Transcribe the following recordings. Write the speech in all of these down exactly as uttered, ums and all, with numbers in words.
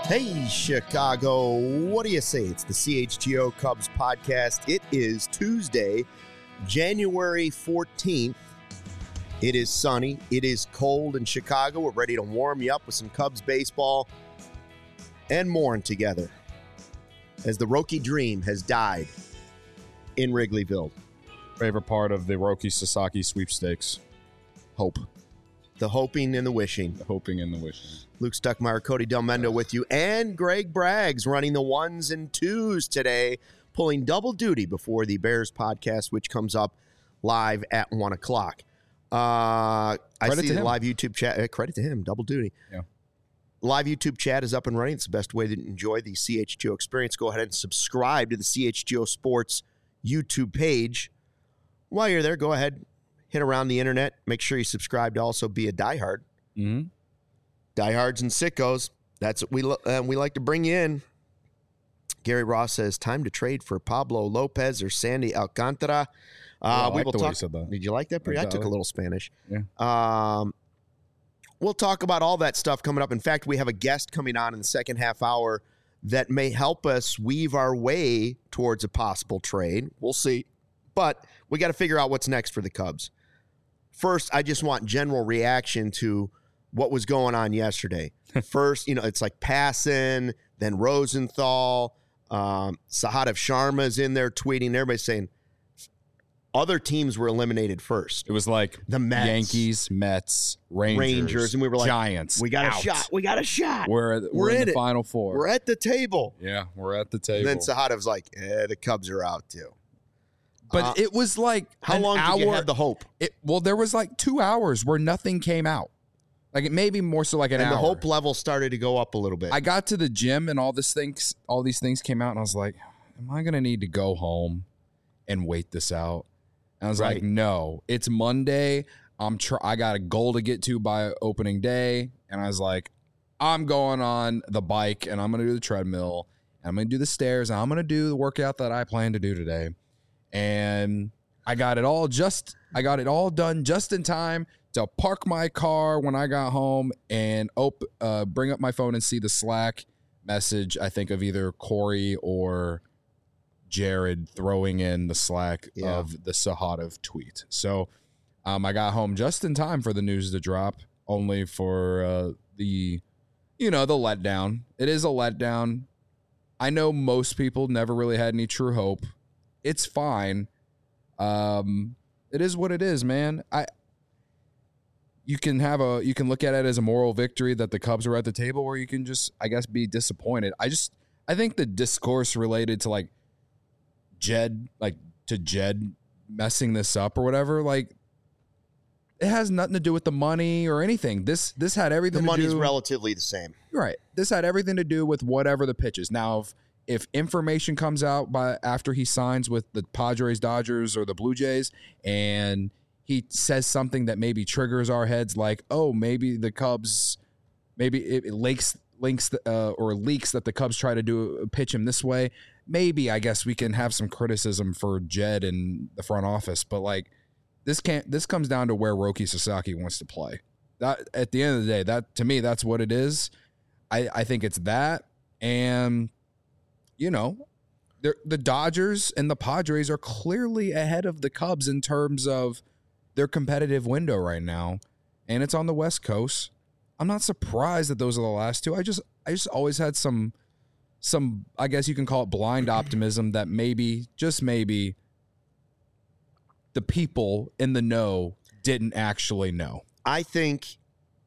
Hey, Chicago. What do you say? It's the C H G O Cubs podcast. It is Tuesday, January fourteenth. It is sunny. It is cold in Chicago. We're ready to warm you up with some Cubs baseball and more together as the Roki dream has died in Wrigleyville. Favorite part of the Roki Sasaki sweepstakes. Hope. The hoping and the wishing. The hoping and the wishing. Luke Stuckmeyer, Cody Del Mendo with you, and Greg Braggs running the ones and twos today, pulling double duty before the Bears podcast, which comes up live at one o'clock. Uh, I see the live YouTube chat. Uh, credit to him, double duty. Yeah. Live YouTube chat is up and running. It's the best way to enjoy the C H G O experience. Go ahead and subscribe to the C H G O Sports YouTube page. While you're there, go ahead, hit around the internet. Make sure you subscribe to also be a diehard. Mm-hmm. Diehards and sickos. That's what we lo- uh, we like to bring you in. Gary Ross says, time to trade for Pablo Lopez or Sandy Alcantara. Uh, oh, we I will like the way talk. you said that. Did you like that? Pretty? I took a little Spanish. Yeah. Um, we'll talk about all that stuff coming up. In fact, we have a guest coming on in the second half hour that may help us weave our way towards a possible trade. We'll see. But we got to figure out what's next for the Cubs. First, I just want general reaction to what was going on yesterday. First, you know, it's like Passan, then Rosenthal, um, Sahadev Sharma's in there tweeting. Everybody's saying other teams were eliminated first. It was like the Mets, Yankees, Mets, Rangers, Rangers, and we were like, Giants. We got out. a shot. We got a shot. We're, we're, we're in, in the it. Final Four. We're at the table. Yeah, we're at the table. And then Sahadev's like, eh, the Cubs are out too. But uh, it was like how an long hour, did you have the hope? It, well, there was like two hours where nothing came out. Like it may be more so like an and hour. And the hope level started to go up a little bit. I got to the gym and all this things, all these things came out, and I was like, "Am I gonna need to go home and wait this out?" And I was right. like, "No, it's Monday. I'm tr- I got a goal to get to by opening day," and I was like, "I'm going on the bike and I'm gonna do the treadmill and I'm gonna do the stairs and I'm gonna do the workout that I plan to do today." And I got it all just I got it all done just in time to park my car when I got home and op- uh, bring up my phone and see the Slack message, I think, of either Corey or Jared throwing in the Slack yeah. of the Sahadev tweet. So um, I got home just in time for the news to drop, only for uh, the, you know, the letdown. It is a letdown. I know most people never really had any true hope. It's fine. Um, it is what it is, man. I you can have a you can look at it as a moral victory that the Cubs are at the table, or you can just, I guess, be disappointed. I just I think the discourse related to like Jed, like to Jed messing this up or whatever, like it has nothing to do with the money or anything. This this had everything. The to money's do, relatively the same, right? This had everything to do with whatever the pitch is. Now, if If information comes out by after he signs with the Padres, Dodgers, or the Blue Jays, and he says something that maybe triggers our heads, like, oh, maybe the Cubs, maybe it, it links links uh, or leaks that the Cubs try to do pitch him this way. Maybe I guess we can have some criticism for Jed and the front office, but like this can't. This comes down to where Roki Sasaki wants to play. That at the end of the day, that to me, that's what it is. I I think it's that and. You know, the Dodgers and the Padres are clearly ahead of the Cubs in terms of their competitive window right now, and it's on the West Coast. I'm not surprised that those are the last two. I just, I just always had some, some, I guess you can call it blind optimism that maybe, just maybe, the people in the know didn't actually know. I think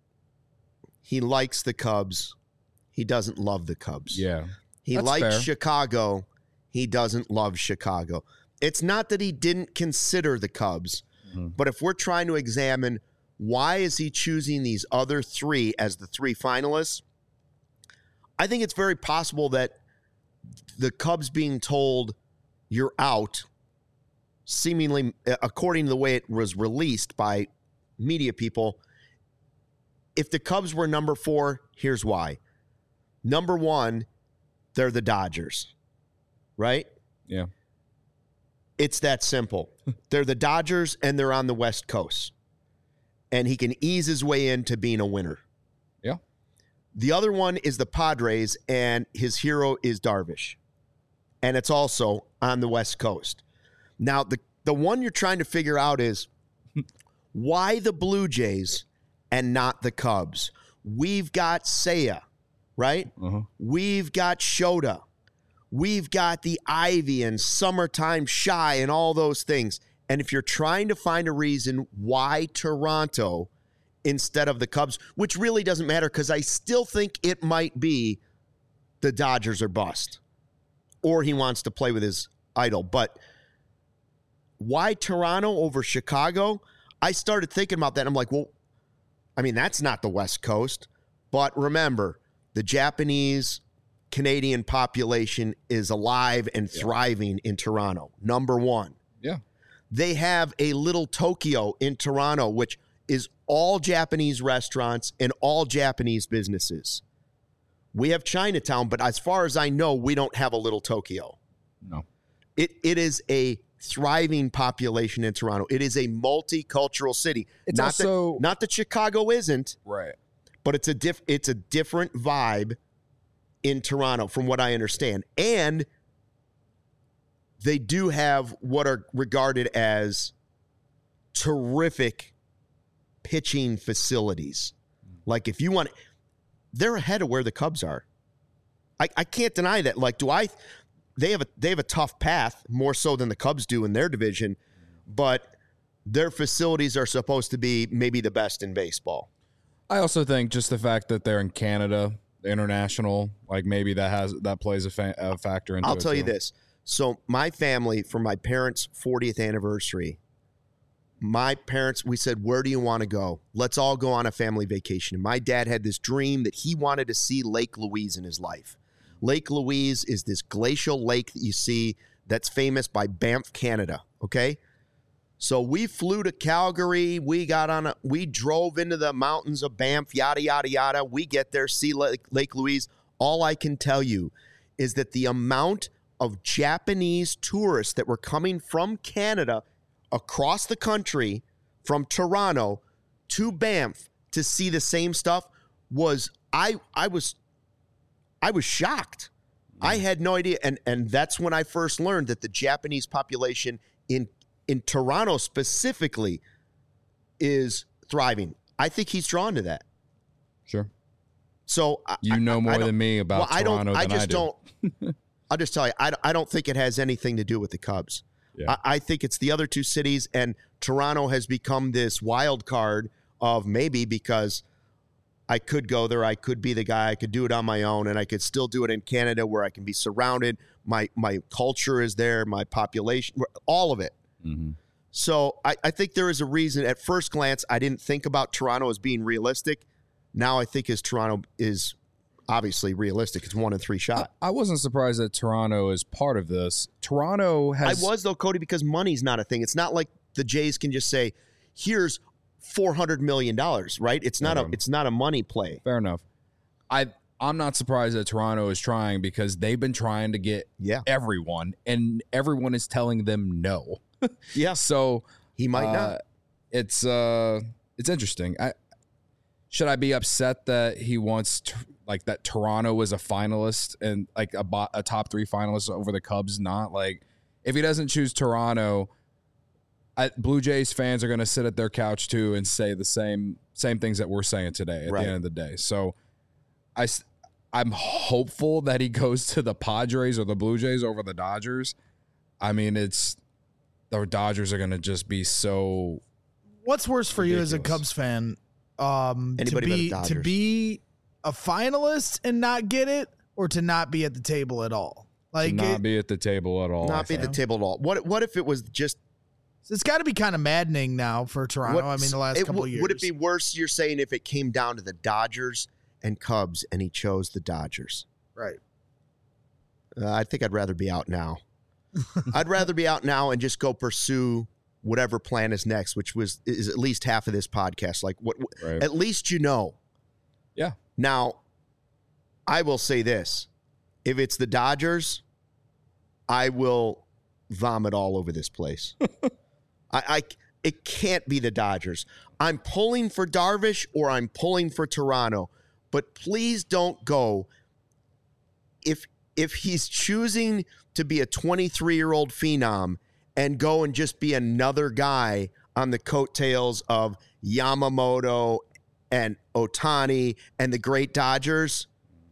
he likes the Cubs. He doesn't love the Cubs. Yeah. He That's likes fair. Chicago. He doesn't love Chicago. It's not that he didn't consider the Cubs, mm-hmm. but if we're trying to examine why is he choosing these other three as the three finalists, I think it's very possible that the Cubs being told you're out, seemingly according to the way it was released by media people, if the Cubs were number four, here's why. Number one, they're the Dodgers, right? Yeah. It's that simple. They're the Dodgers, and they're on the West Coast. And he can ease his way into being a winner. Yeah. The other one is the Padres, and his hero is Darvish. And it's also on the West Coast. Now, the, the one you're trying to figure out is why the Blue Jays and not the Cubs? We've got Seiya, right? Uh-huh. We've got Shota. We've got the Ivy and Summertime Shy and all those things. And if you're trying to find a reason why Toronto instead of the Cubs, which really doesn't matter because I still think it might be the Dodgers are bust or he wants to play with his idol. But why Toronto over Chicago? I started thinking about that. I'm like, well, I mean, that's not the West Coast. But remember, the Japanese Canadian population is alive and thriving in Toronto. Number one. Yeah. They have a little Tokyo in Toronto, which is all Japanese restaurants and all Japanese businesses. We have Chinatown, but as far as I know, we don't have a little Tokyo. No. It it is a thriving population in Toronto. It is a multicultural city. It's not also that, not that Chicago isn't, right, but it's a diff, it's a different vibe in Toronto from what I understand. And they do have what are regarded as terrific pitching facilities. Like if you want, they're ahead of where the Cubs are. I, I can't deny that. Like, do I, they have a, they have a tough path more so than the Cubs do in their division, but their facilities are supposed to be maybe the best in baseball. I also think just the fact that they're in Canada, international, like maybe that has, that plays a, fa- a factor into it. I'll tell too. you this. So my family, for my parents' fortieth anniversary, my parents, we said, where do you want to go? Let's all go on a family vacation. And my dad had this dream that he wanted to see Lake Louise in his life. Lake Louise is this glacial lake that you see that's famous by Banff, Canada, okay? So we flew to Calgary. We got on a, we drove into the mountains of Banff, yada, yada, yada. We get there, see Lake, Lake Louise. All I can tell you is that the amount of Japanese tourists that were coming from Canada across the country, from Toronto to Banff to see the same stuff was, I I was I was shocked. Mm. I had no idea. And and that's when I first learned that the Japanese population in in Toronto specifically is thriving. I think he's drawn to that. Sure. So you I, know more I than me about well, Toronto I don't, than I just I do. don't. I'll just tell you, I, I don't think it has anything to do with the Cubs. Yeah. I, I think it's the other two cities, and Toronto has become this wild card of maybe because I could go there, I could be the guy, I could do it on my own, and I could still do it in Canada where I can be surrounded. My my culture is there, my population, all of it. Mm-hmm. So I, I think there is a reason. At first glance, I didn't think about Toronto as being realistic. Now I think as Toronto is obviously realistic. It's one in three shot. I, I wasn't surprised that Toronto is part of this. Toronto has... I was, though, Cody, because money's not a thing. It's not like the Jays can just say, here's four hundred million dollars, right? It's not, a, it's not a money play. Fair enough. I, I'm not surprised that Toronto is trying because they've been trying to get yeah. everyone, and everyone is telling them no. Yeah. So he might uh, not. It's uh, it's interesting. I should I be upset that he wants to, like that Toronto is a finalist and like a, a top three finalist over the Cubs? Not like if he doesn't choose Toronto, I, Blue Jays fans are going to sit at their couch too and say the same same things that we're saying today at right. the end of the day. So I I'm hopeful that he goes to the Padres or the Blue Jays over the Dodgers. I mean, it's the Dodgers are going to just be so. What's worse for ridiculous. you as a Cubs fan? Um, Anybody to be but the to Dodgers. be a finalist and not get it, or to not be at the table at all? Like to not it, be at the table at all. Not be at the table at all. What What if it was just? it's got to be kind of maddening now for Toronto. What, I mean, the last it, couple of years. Would it be worse? You're saying if it came down to the Dodgers and Cubs, and he chose the Dodgers, right? Uh, I think I'd rather be out now. I'd rather be out now and just go pursue whatever plan is next, which was is at least half of this podcast. Like what? Right. At least you know. Yeah. Now, I will say this: if it's the Dodgers, I will vomit all over this place. I, I it can't be the Dodgers. I'm pulling for Darvish or I'm pulling for Toronto. but please don't go. If if he's choosing to be a twenty-three-year-old phenom and go and just be another guy on the coattails of Yamamoto and Ohtani and the great Dodgers,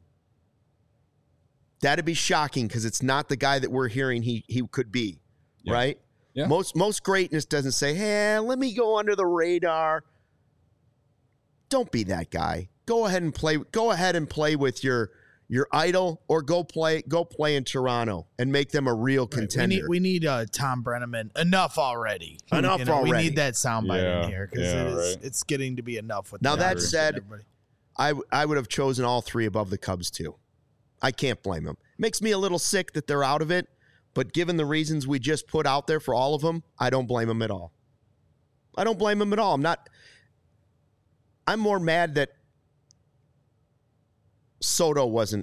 that'd be shocking because it's not the guy that we're hearing he he could be, yeah. right? Yeah. Most most greatness doesn't say, hey, let me go under the radar. Don't be that guy. Go ahead and play. Go ahead and play with your your idol, or go play go play in Toronto and make them a real contender. Right. We need we need uh, Tom Brenneman. Enough already. Enough you know, already. We need that soundbite yeah. in here because yeah, it is, right. it's getting to be enough with now the that said, I I would have chosen all three above the Cubs too. I can't blame them. Makes me a little sick that they're out of it, but given the reasons we just put out there for all of them, I don't blame them at all. I don't blame them at all. I'm not. I'm more mad that Soto wasn't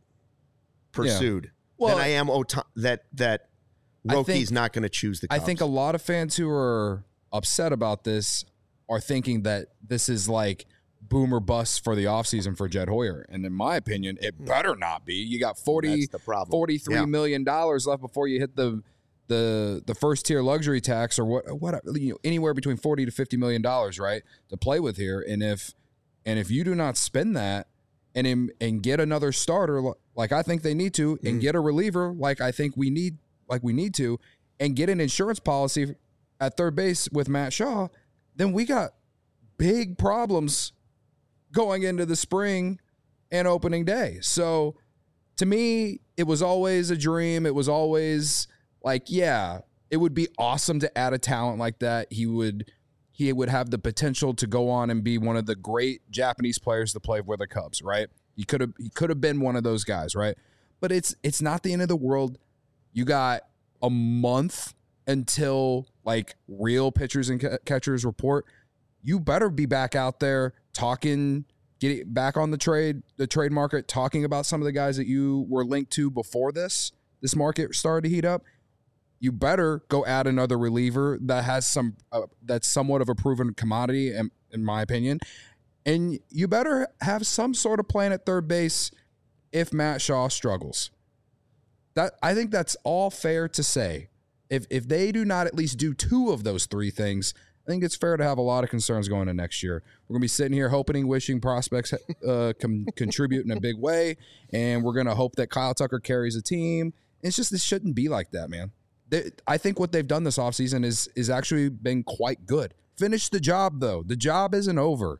pursued yeah. well, than I am Ota- that that Rocky's not going to choose the Cubs. I think a lot of fans who are upset about this are thinking that this is like boomer bust for the offseason for Jed Hoyer. And in my opinion, it better not be. You got forty, forty-three yeah. million dollars left before you hit the the the first tier luxury tax, or what what you know, anywhere between forty to fifty million dollars, right, to play with here. And if and if you do not spend that and in, and get another starter like I think they need to, and mm. get a reliever like I think we need like we need to, and get an insurance policy at third base with Matt Shaw, then we got big problems going into the spring and opening day. So to me, it was always a dream. It was always like, yeah, it would be awesome to add a talent like that. He would he would have the potential to go on and be one of the great Japanese players to play with the Cubs, right? He could have he could have been one of those guys, right? But it's it's not the end of the world. You got a month until like real pitchers and catchers report. You better be back out there talking, getting back on the trade, the trade market, talking about some of the guys that you were linked to before this, this market started to heat up. You better go add another reliever that has some, uh, that's somewhat of a proven commodity, in, in my opinion. And you better have some sort of plan at third base if Matt Shaw struggles. That I think that's all fair to say. If if they do not at least do two of those three things, I think it's fair to have a lot of concerns going into next year. We're going to be sitting here hoping, wishing prospects uh, can contribute in a big way, and we're going to hope that Kyle Tucker carries a team. It's just, this shouldn't be like that, man. They, I think what they've done this offseason is is actually been quite good. Finish the job, though. The job isn't over.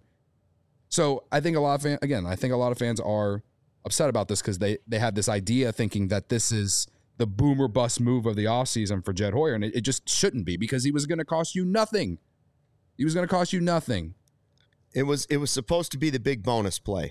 So I think a lot of fans, again, I think a lot of fans are upset about this because they, they have this idea thinking that this is the boomer bust move of the offseason for Jed Hoyer, and it, it just shouldn't be, because he was going to cost you nothing. He was going to cost you nothing. It was it was supposed to be the big bonus play.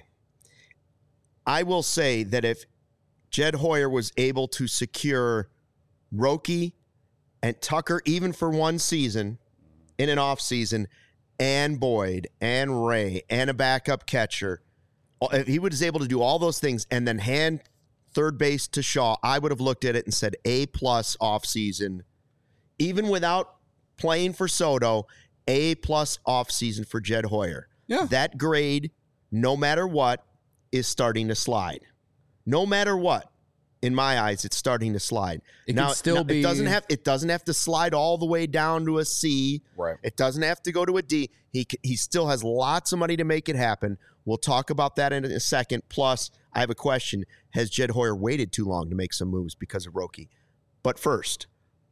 I will say that if Jed Hoyer was able to secure Roki and Tucker even for one season in an offseason, and Boyd and Ray and a backup catcher, if he was able to do all those things and then hand third base to Shaw, I would have looked at it and said A plus offseason, even without playing for Soto. A plus offseason for Jed Hoyer. Yeah. That grade, no matter what, is starting to slide. No matter what, in my eyes, it's starting to slide. It now, can still now, be. It doesn't have. It doesn't have to slide all the way down to a C. Right. It doesn't have to go to a D. He he still has lots of money to make it happen. We'll talk about that in a second. Plus, I have a question: has Jed Hoyer waited too long to make some moves because of Roki? But first,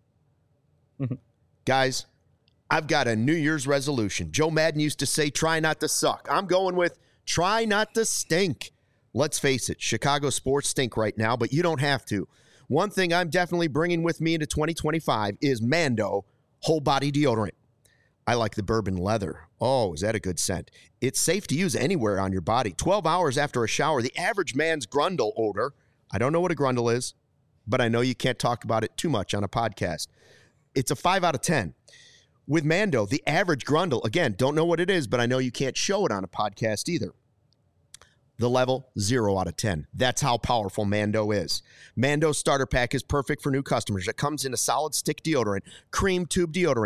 guys, I've got a New Year's resolution. Joe Madden used to say, try not to suck. I'm going with try not to stink. Let's face it, Chicago sports stink right now, but you don't have to. One thing I'm definitely bringing with me into twenty twenty-five is Mando whole body deodorant. I like the bourbon leather. Oh, is that a good scent? It's safe to use anywhere on your body. twelve hours after a shower, the average man's grundle odor. I don't know what a grundle is, but I know you can't talk about it too much on a podcast. It's a five out of ten. With Mando, the average grundle, again, don't know what it is, but I know you can't show it on a podcast either. The level, zero out of ten. That's how powerful Mando is. Mando's starter pack is perfect for new customers. It comes in a solid stick deodorant, cream tube deodorant,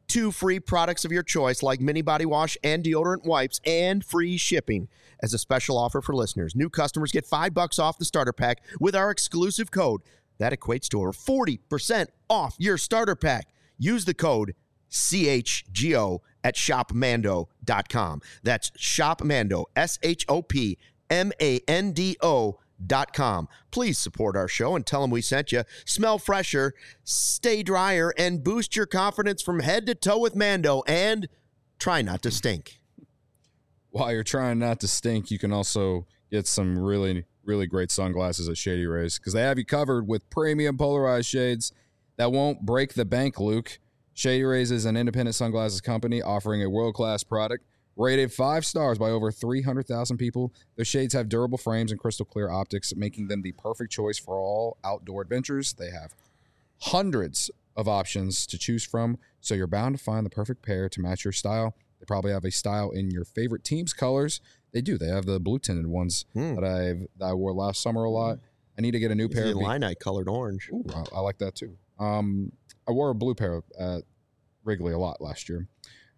two free products of your choice like mini body wash and deodorant wipes and free shipping. As a special offer for listeners, new customers get five bucks off the starter pack with our exclusive code. That equates to over forty percent off your starter pack. Use the code C H G O at shop mando dot com. That's ShopMando, S H O P M A N D O dot com. Please support our show and tell them we sent you. Smell fresher, stay drier, and boost your confidence from head to toe with Mando, and try not to stink. While you're trying not to stink, you can also get some really, really great sunglasses at Shady Rays because they have you covered with premium polarized shades that won't break the bank, Luke. Shady Rays is an independent sunglasses company offering a world-class product rated five stars by over three hundred thousand people. Their shades have durable frames and crystal clear optics, making them the perfect choice for all outdoor adventures. They have hundreds of options to choose from, so you're bound to find the perfect pair to match your style. They probably have a style in your favorite team's colors. They do. They have the blue tinted ones mm. that I've that I wore last summer a lot. I need to get a new it's pair. The of Illini colored orange. Ooh, I, I like that too. Um, I wore a blue pair at Wrigley a lot last year.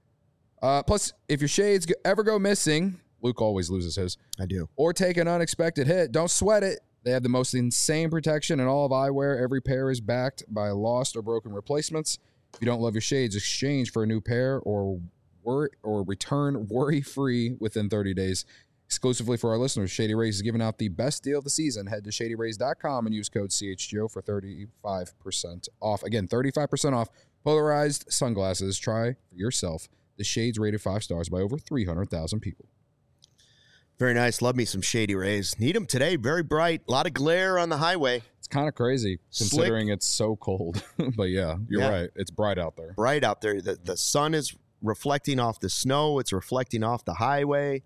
Uh, plus, if your shades ever go missing, Luke always loses his. I do. Or take an unexpected hit, don't sweat it. They have the most insane protection in all of eyewear. Every pair is backed by lost or broken replacements. If you don't love your shades, exchange for a new pair or Worry, or return worry-free within thirty days. Exclusively for our listeners, Shady Rays is giving out the best deal of the season. Head to shady rays dot com and use code C H G O for thirty-five percent off. Again, thirty-five percent off polarized sunglasses. Try for yourself. The shades rated five stars by over three hundred thousand people. Very nice. Love me some Shady Rays. Need them today. Very bright. A lot of glare on the highway. It's kind of crazy considering Slick. It's so cold. But yeah, you're yeah. right. It's bright out there. Bright out there. The, the sun is reflecting off the snow. It's reflecting off the highway.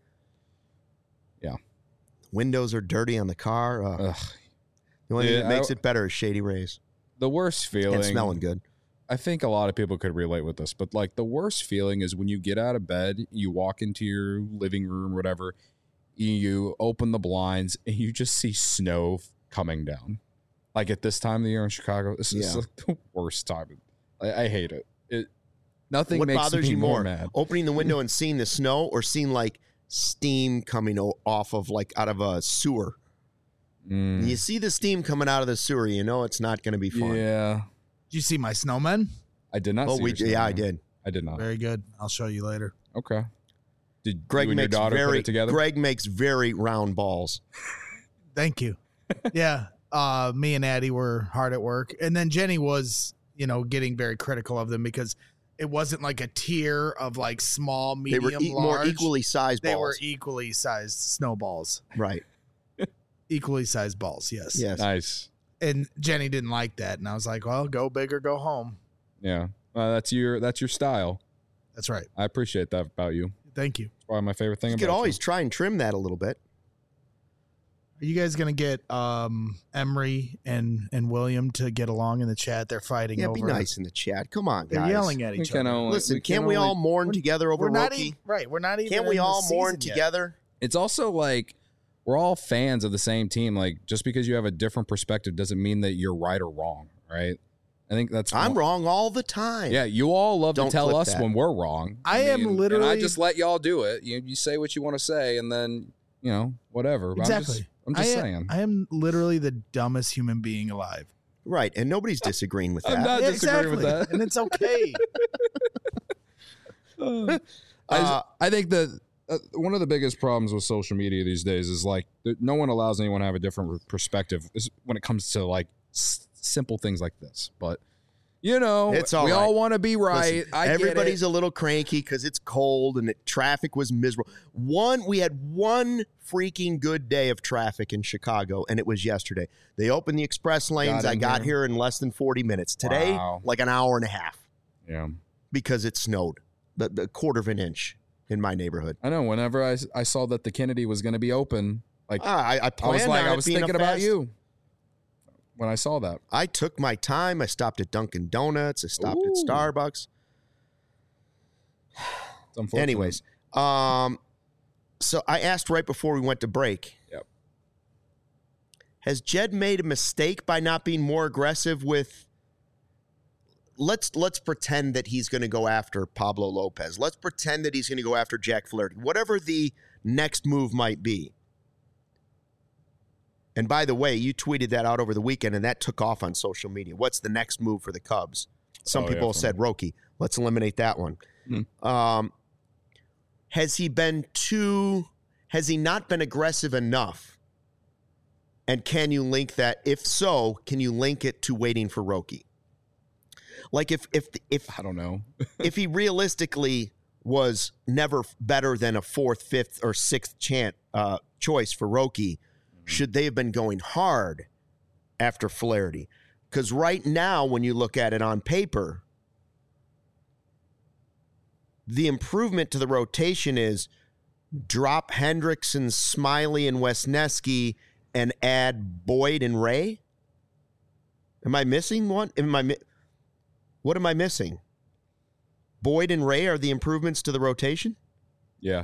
Yeah. Windows are dirty on the car. Ugh. Ugh. The only yeah, thing that makes I, it better is Shady Rays. The worst feeling. And smelling good. I think a lot of people could relate with this, but like the worst feeling is when you get out of bed, you walk into your living room or whatever, you open the blinds and you just see snow coming down. Like at this time of the year in Chicago, this is yeah. like the worst time. I, I hate it. It Nothing what makes bothers me you more more, mad. Opening the window and seeing the snow, or seeing like steam coming o- off of like out of a sewer? Mm. You see the steam coming out of the sewer, you know it's not going to be fun. Yeah. Did you see my snowmen? I did not. Oh, see we your yeah, I did. I did not. Very good. I'll show you later. Okay. Did Greg you and your makes daughter very, put it together? Greg makes very round balls. Thank you. Yeah. Uh, me and Addie were hard at work, and then Jenny was, you know, getting very critical of them because it wasn't like a tier of like small, medium, they were e- large. more equally sized balls. They were equally sized snowballs. Right. Equally sized balls, yes. Yes. Nice. And Jenny didn't like that, and I was like, well, go big or go home. Yeah. Well, that's your that's your style. That's right. I appreciate that about you. Thank you. It's probably my favorite thing you about could always you. try and trim that a little bit. Are you guys going to get um, Emery and, and William to get along in the chat? They're fighting yeah, over. be nice in the chat. Come on, They're guys. yelling at each we other. Only, Listen, we can't can we only, all mourn together over we're not Rookie? Even, right, we're not even. Can't we in all the mourn season yet. together? It's also like we're all fans of the same team. Like just because you have a different perspective doesn't mean that you're right or wrong, right? I think that's I'm one. wrong all the time. Yeah, you all love Don't to tell clip us that. when we're wrong. I am mean, literally- and I just let y'all do it. You you say what you want to say, and then you know whatever. But Exactly. I'm just, I'm just I am, saying. I am literally the dumbest human being alive. Right, and nobody's disagreeing with that. I'm not Yeah, disagreeing with that. And it's okay. I, Uh, I think that uh, one of the biggest problems with social media these days is like that no one allows anyone to have a different perspective when it comes to like s- simple things like this. But you know, It's all we right. all want to be right. Listen, I everybody's get it. a little cranky because it's cold and the traffic was miserable. One, we had one freaking good day of traffic in Chicago, and it was yesterday. They opened the express lanes. Got I in got here. here in less than forty minutes. Today, Wow. like an hour and a half Yeah, because it snowed, the, the quarter of an inch in my neighborhood. I know. Whenever I, I saw that the Kennedy was going to be open, like Ah, I, I, I planned was like, on I it was being a thinking about fast- you when I saw that. I took my time. I stopped at Dunkin' Donuts. I stopped Ooh. at Starbucks. It's unfortunate. Anyways, um, so I asked right before we went to break. Yep. Has Jed made a mistake by not being more aggressive with let's let's pretend that he's going to go after Pablo Lopez. Let's pretend that he's going to go after Jack Flaherty. Whatever the next move might be. And by the way, you tweeted that out over the weekend, and that took off on social media. What's the next move for the Cubs? Some oh, people yeah, said Roki. Let's eliminate that one. Hmm. Um, has he been too? Has he not been aggressive enough? And can you link that? If so, can you link it to waiting for Roki? Like if if if I don't know. if he realistically was never better than a fourth, fifth, or sixth chance uh, choice for Roki, should they have been going hard after Flaherty? Because right now, when you look at it on paper, the improvement to the rotation is drop Hendrickson, Smiley, and Wesneski and add Boyd and Ray? Am I missing one? Am I mi- what am I missing? Boyd and Ray are the improvements to the rotation? Yeah.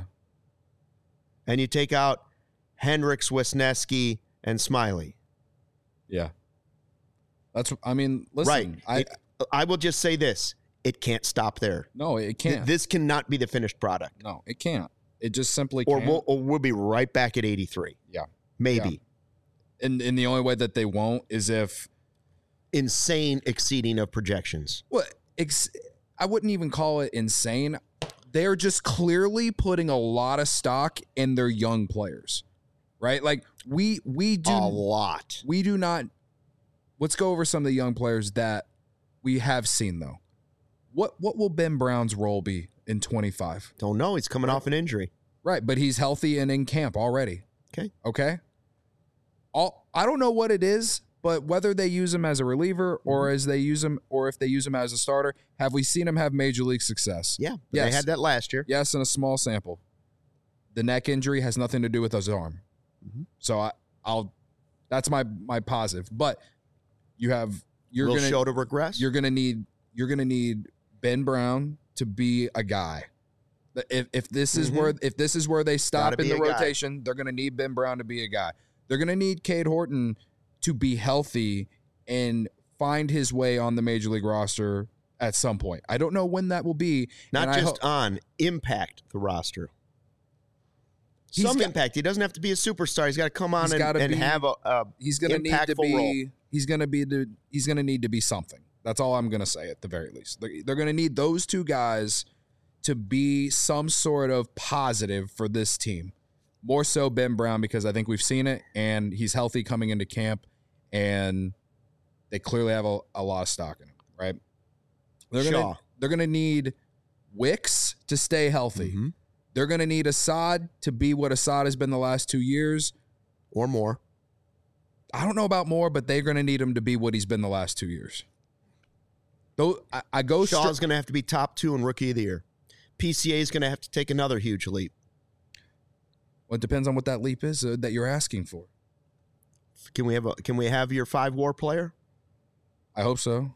And you take out Hendricks, Wesneski, and Smiley. Yeah. That's, I mean, listen. Right. I, it, I will just say this. It can't stop there. no, it can't. Th- This cannot be the finished product. no, it can't. It just simply Or can't. we'll, or we'll be right back at eighty-three. Yeah. Maybe. And, and the only way that they won't is if, Insane exceeding of projections. well, ex- I wouldn't even call it insane. They're just clearly putting a lot of stock in their young players, right? Like we we do A lot. we do not. Let's go over some of the young players that we have seen though. What what will Ben Brown's role be in twenty-five? Don't know. He's coming off an injury. Right, but he's healthy and in camp already. Okay. Okay. All I don't know what it is, but whether they use him as a reliever or as they use him, or if they use him as a starter, have we seen him have major league success? Yeah. But Yes. They had that last year. Yes, in a small sample. The neck injury has nothing to do with his arm. Mhm. So I, I'll. That's my my positive. But you have you're Will gonna show to regress. you're gonna need you're gonna need Ben Brown to be a guy. If if this is Mhm. where if this is where they stop Gotta in be the a guy. rotation, they're gonna need Ben Brown to be a guy. They're gonna need Cade Horton to be healthy and find his way on the major league roster at some point. I don't know when that will be. Not and I just ho- on, impact the roster. He's Some got- impact. He doesn't have to be a superstar. He's got to come on He's and, gotta and be- have a, a he's gonna need to impactful be role. he's gonna be the he's gonna need to be something. That's all I'm gonna say at the very least. They're, they're gonna need those two guys to be some sort of positive for this team. More so Ben Brown, because I think we've seen it and he's healthy coming into camp and they clearly have a, a lot of stock in him, right? They're gonna Shaw. they're gonna need Wicks to stay healthy. Mhm. They're gonna need Assad to be what Assad has been the last two years. Or more. I don't know about more, but they're going to need him to be what he's been the last two years. Though I, I go Shaw's stri- going to have to be top two in Rookie of the Year. P C A is going to have to take another huge leap. Well, it depends on what that leap is uh, that you're asking for. Can we have a Can we have your five WAR player? I hope so.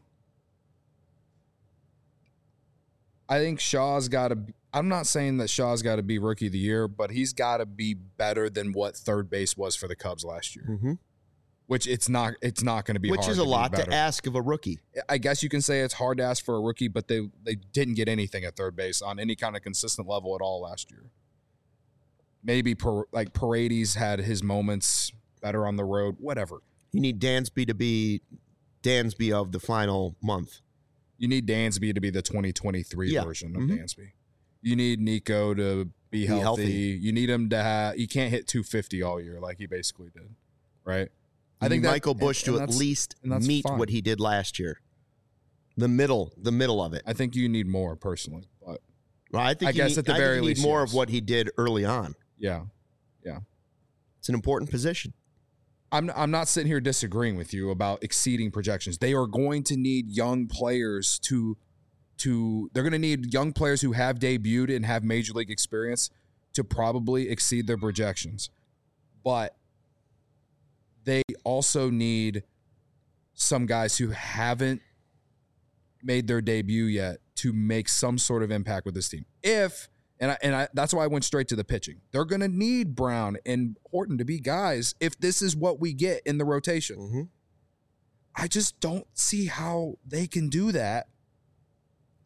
I think Shaw's got to. I'm not saying that Shaw's got to be Rookie of the Year, but he's got to be better than what third base was for the Cubs last year. Mm-hmm. Which it's not. It's not going to be. Which hard is a to be lot to better. ask of a rookie. I guess you can say it's hard to ask for a rookie, but they they didn't get anything at third base on any kind of consistent level at all last year. Maybe per, like Paredes had his moments better on the road, whatever. You need Dansby to be Dansby of the final month. You need Dansby to be the twenty twenty-three Yeah. version of Mhm. Dansby. You need Nico to be healthy. healthy. You need him to have. He can't hit two fifty all year like he basically did, right? You I think need that- Michael Busch and- to and at that's- least and that's meet fine. what he did last year. The middle, the middle of it. I think you need more personally, but Well, I think I you guess need, at the I think very you need least, more yes. of what he did early on. yeah. It's an important position. I'm I'm not sitting here disagreeing with you about exceeding projections. They are going to need young players to to they're going to need young players who have debuted and have major league experience to probably exceed their projections. But they also need some guys who haven't made their debut yet to make some sort of impact with this team. If And I, and I, that's why I went straight to the pitching. They're going to need Brown and Horton to be guys if this is what we get in the rotation. Mm-hmm. I just don't see how they can do that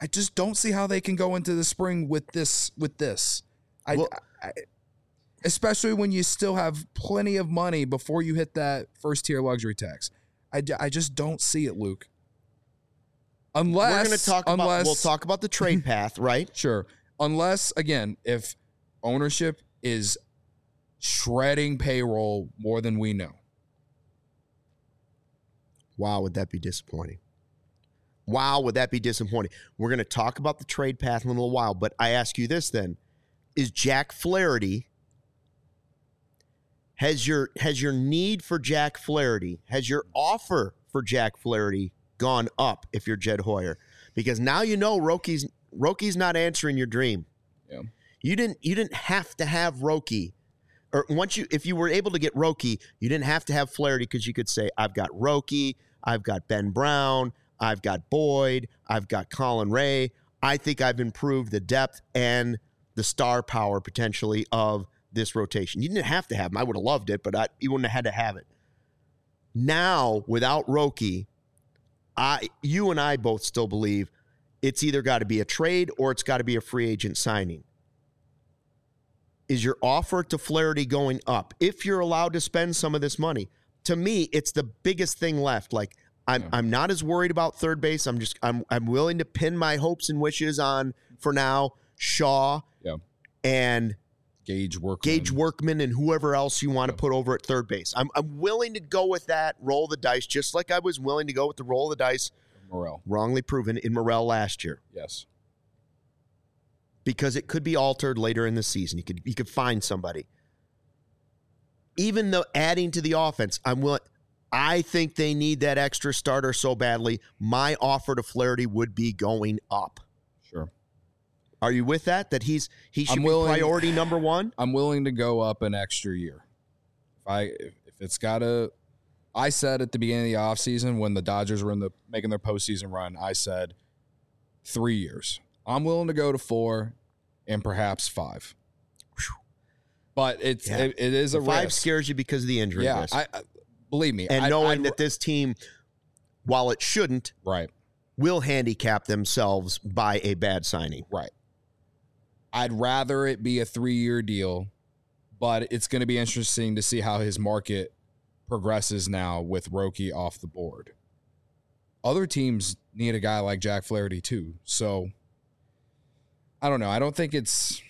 I just don't see how they can go into the spring with this. With this, I, Well- I, I especially when you still have plenty of money before you hit that first tier luxury tax. I, ju- I just don't see it, Luke. Unless We're going to talk unless, about we'll talk about the trade path, right? Sure. Unless, again, if ownership is shredding payroll more than we know. Wow, would that be disappointing? Wow, would that be disappointing? We're going to talk about the trade path in a little while, but I ask you this then. Is Jack Flaherty, has your has your need for Jack Flaherty, has your offer for Jack Flaherty gone up if you're Jed Hoyer? Because now you know Rocky's Rocky's not answering your dream. Yeah. You didn't you didn't have to have Roki. Or once you if you were able to get Roki, you didn't have to have Flaherty because you could say, I've got Roki, I've got Ben Brown, I've got Boyd, I've got Colin Ray. I think I've improved the depth and the star power potentially of this rotation. You didn't have to have him. I would have loved it, but I, you wouldn't have had to have it. Now, without Roki, I, you and I both still believe it's either got to be a trade or it's got to be a free agent signing. Is your offer to Flaherty going up if you're allowed to spend some of this money? To me, it's the biggest thing left. Like, I'm, yeah. I'm not as worried about third base. I'm just I'm I'm willing to pin my hopes and wishes on, for now, Shaw yeah. and Gage Workman. Gage Workman and whoever else you want yeah. to put over at third base. I'm I'm willing to go with that, roll the dice, just like I was willing to go with the roll of the dice, Morel. wrongly proven in Morel last year. Yes. Because it could be altered later in the season. You could you could find somebody. Even though adding to the offense, I'm willing. I think they need that extra starter so badly. My offer to Flaherty would be going up. Sure. Are you with that? That he's he should I'm be willing, priority number one? I'm willing to go up an extra year. If I if, if it's got a I said at the beginning of the offseason when the Dodgers were in the making their postseason run, I said three years. I'm willing to go to four and perhaps five. Whew. But it's yeah. it, it is a five risk. Scares you because of the injury yeah, risk. I, I believe me. And I, knowing I, that this team, while it shouldn't, right, will handicap themselves by a bad signing. Right. I'd rather it be a three-year deal, but it's going to be interesting to see how his market progresses now with Roki off the board. Other teams need a guy like Jack Flaherty too. So I don't know. I don't think it's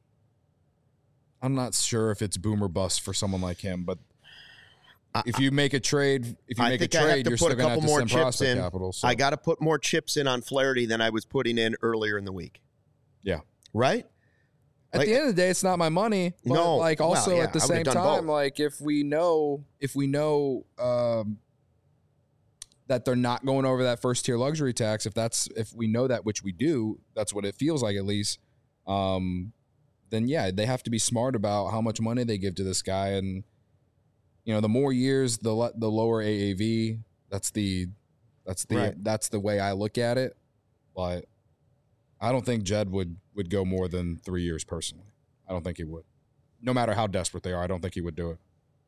I'm not sure if it's boom or bust for someone like him, but if you make a trade, if you I make think a I trade, have to you're put still a going to couple have to more send chips prospect in. capital. So. I got to put more chips in on Flaherty than I was putting in earlier in the week. Yeah. Right? At like, the end of the day, it's not my money. But no, like also well, yeah, at the I same time, both. like if we know if we know um, that they're not going over that first tier luxury tax, if that's if we know that, which we do, that's what it feels like at least. Um, then yeah, they have to be smart about how much money they give to this guy, and you know, the more years, the le- the lower A A V. That's the that's the right. that's the way I look at it. But I don't think Jed would would go more than three years personally. I don't think he would. No matter how desperate they are, I don't think he would do it.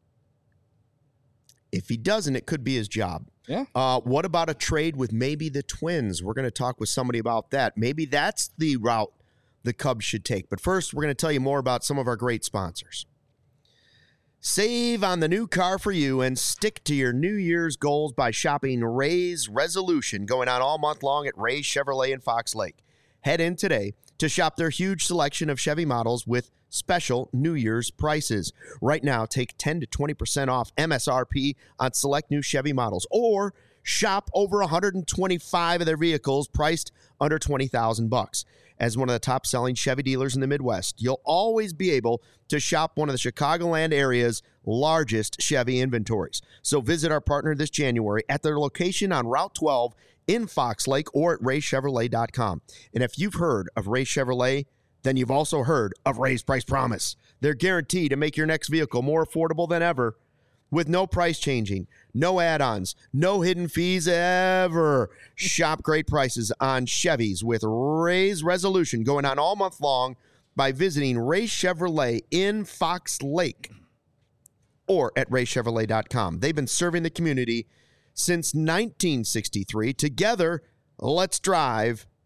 If he doesn't, it could be his job. Yeah. Uh, what about a trade with maybe the Twins? We're going to talk with somebody about that. Maybe that's the route the Cubs should take. But first, we're going to tell you more about some of our great sponsors. Save on the new car for you and stick to your New Year's goals by shopping Ray's Resolution, going on all month long at Ray's Chevrolet in Fox Lake. Head in today to shop their huge selection of Chevy models with special New Year's prices. Right now, take ten to twenty percent off M S R P on select new Chevy models, or shop over one hundred twenty-five of their vehicles priced under twenty thousand bucks. As one of the top-selling Chevy dealers in the Midwest, you'll always be able to shop one of the Chicagoland area's largest Chevy inventories. So visit our partner this January at their location on Route twelve in Fox Lake or at ray chevrolet dot com. And if you've heard of Ray Chevrolet, then you've also heard of Ray's Price Promise. They're guaranteed to make your next vehicle more affordable than ever with no price changing, no add-ons, no hidden fees ever. Shop great prices on Chevys with Ray's Resolution going on all month long by visiting Ray Chevrolet in Fox Lake or at ray chevrolet dot com. They've been serving the community since nineteen sixty-three. Together, let's drive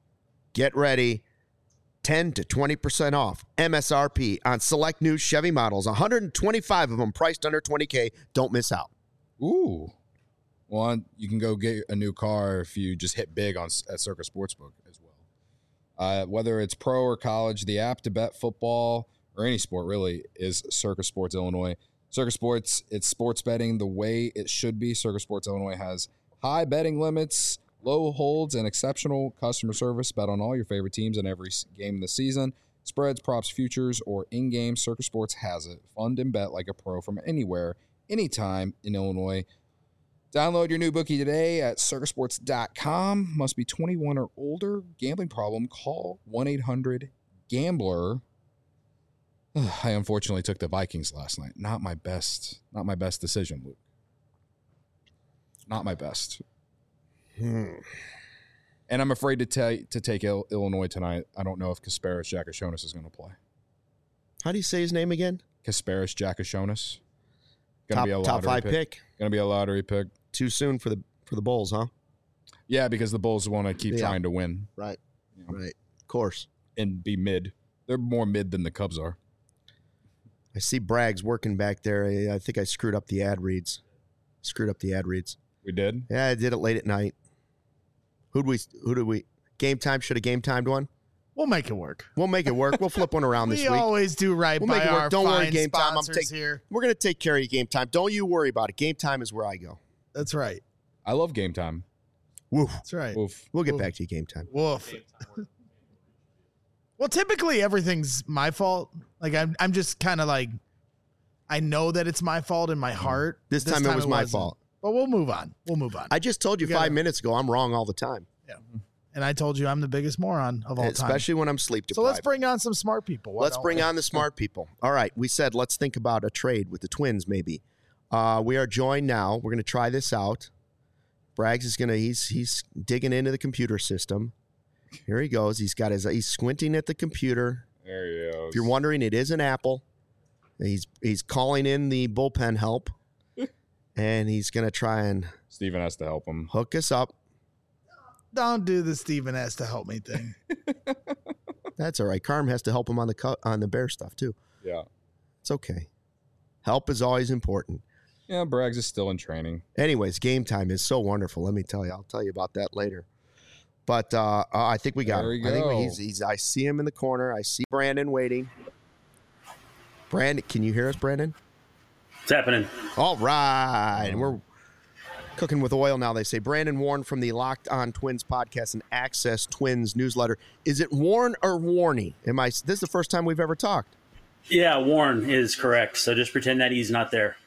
Get ready. ten to twenty percent off M S R P on select new Chevy models. one hundred twenty-five of them priced under twenty K. Don't miss out. Ooh. Well, you can go get a new car if you just hit big on at Circa Sportsbook as well. Uh, whether it's pro or college, the app to bet football or any sport really is Circa Sports Illinois. Circa Sports, it's sports betting the way it should be. Circa Sports Illinois has high betting limits, low holds, and exceptional customer service. Bet on all your favorite teams in every game of the season. Spreads, props, futures, or in-game, Circa Sports has it. Fund and bet like a pro from anywhere, anytime in Illinois. Download your new bookie today at circa sports dot com. Must be twenty-one or older. Gambling problem? Call one eight hundred gambler. I unfortunately took the Vikings last night. Not my best. Not my best decision, Luke. Not my best. Hmm. And I'm afraid to tell to take Il- Illinois tonight. I don't know if Kasparis Giacchionis is going to play. How do you say his name again? Kasparis Giacchionis. Top, be a top five pick. pick. Going to be a lottery pick. Too soon for the for the Bulls, huh? Yeah, because the Bulls want to keep yeah. trying to win. Right. You know? Right. Of course. And be mid. They're more mid than the Cubs are. I see Braggs working back there. I, I think I screwed up the ad reads. Screwed up the ad reads. We did? Yeah, I did it late at night. Who'd we who did we game time? Should have game timed one? We'll make it work. We'll make it work. We'll flip one around this we week. We always do right we'll by make it work. our Don't fine worry, game time. I'm take, here. We're going to take care of you, game time. Don't you worry about it. Game time is where I go. That's right. I love game time. Woof. That's right. Woof. We'll get Woof. back to you game time. Woof. Well, typically everything's my fault. Like I'm, I'm just kind of like, I know that it's my fault in my heart. This, this time, time it was it my wasn't. fault. But we'll move on. We'll move on. I just told you, you five gotta, minutes ago I'm wrong all the time. Yeah. And I told you I'm the biggest moron of all Especially time. Especially when I'm sleep deprived. So let's bring on some smart people. Why let's bring we? on the smart people. All right. We said let's think about a trade with the Twins maybe. Uh, we are joined now. We're going to try this out. Braggs is going to, he's he's digging into the computer system. Here he goes. He's got his, he's squinting at the computer. There he goes. If you're wondering, it is an Apple. He's he's calling in the bullpen help. And he's going to try and Steven has to help him. Hook us up. Don't do the Steven has to help me thing. That's all right. Carm has to help him on the cu- on the bear stuff too. Yeah. It's okay. Help is always important. Yeah, Braggs is still in training. Anyways, game time is so wonderful. Let me tell you. I'll tell you about that later. But uh, uh, I think we got there him. We I think go. he's, he's I see him in the corner. I see Brandon waiting. Brandon, can you hear us, Brandon? What's happening? All right. Um, We're cooking with oil now, they say. Brandon Warren from the Locked On Twins podcast and Access Twins newsletter. Is it Warren or Warney? Am I? This is the first time we've ever talked. Yeah, Warren is correct. So just pretend that he's not there.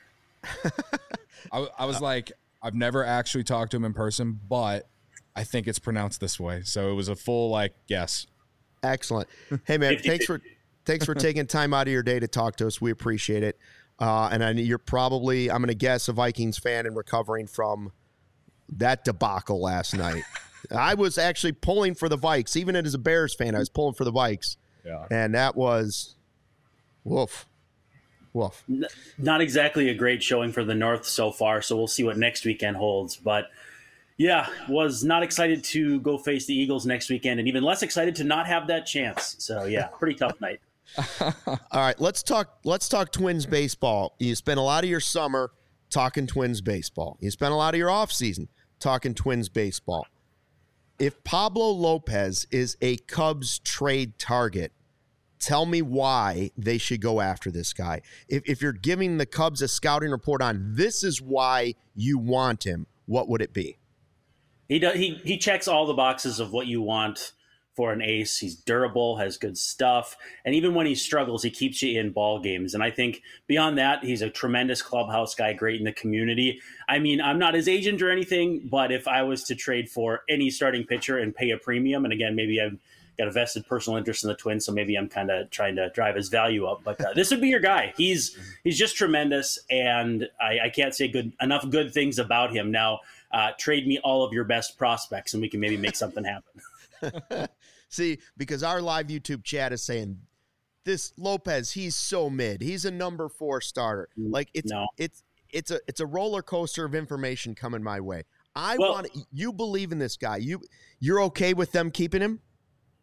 I, I was like, I've never actually talked to him in person, but I think it's pronounced this way. So it was a full like guess. Excellent. Hey man, thanks for thanks for taking time out of your day to talk to us. We appreciate it. Uh, and I, you're probably, I'm going to guess, a Vikings fan and recovering from that debacle last night. I was actually pulling for the Vikes. Even as a Bears fan, I was pulling for the Vikes. Yeah. And that was, woof, woof. N- not exactly a great showing for the North so far, so we'll see what next weekend holds. But, yeah, was not excited to go face the Eagles next weekend and even less excited to not have that chance. So, yeah, pretty tough night. All right, let's talk let's talk Twins baseball. You spent a lot of your summer talking Twins baseball. You spent a lot of your offseason talking Twins baseball. If Pablo Lopez is a Cubs trade target, tell me why they should go after this guy. If if you're giving the Cubs a scouting report on this is why you want him, what would it be? He does, he he checks all the boxes of what you want for an ace. He's durable, has good stuff, and even when he struggles, he keeps you in ball games. And I think beyond that, he's a tremendous clubhouse guy, great in the community. I mean, I'm not his agent or anything, but if I was to trade for any starting pitcher and pay a premium, and again, maybe I've got a vested personal interest in the Twins, so maybe I'm kind of trying to drive his value up, but uh, this would be your guy. He's he's just tremendous, and I, I can't say good enough good things about him. Now, uh, trade me all of your best prospects, and we can maybe make something happen. See, because our live YouTube chat is saying this Lopez, he's so mid. He's a number four starter. Like it's no. it's it's a it's a roller coaster of information coming my way. I well, want you believe in this guy. You you're okay with them keeping him?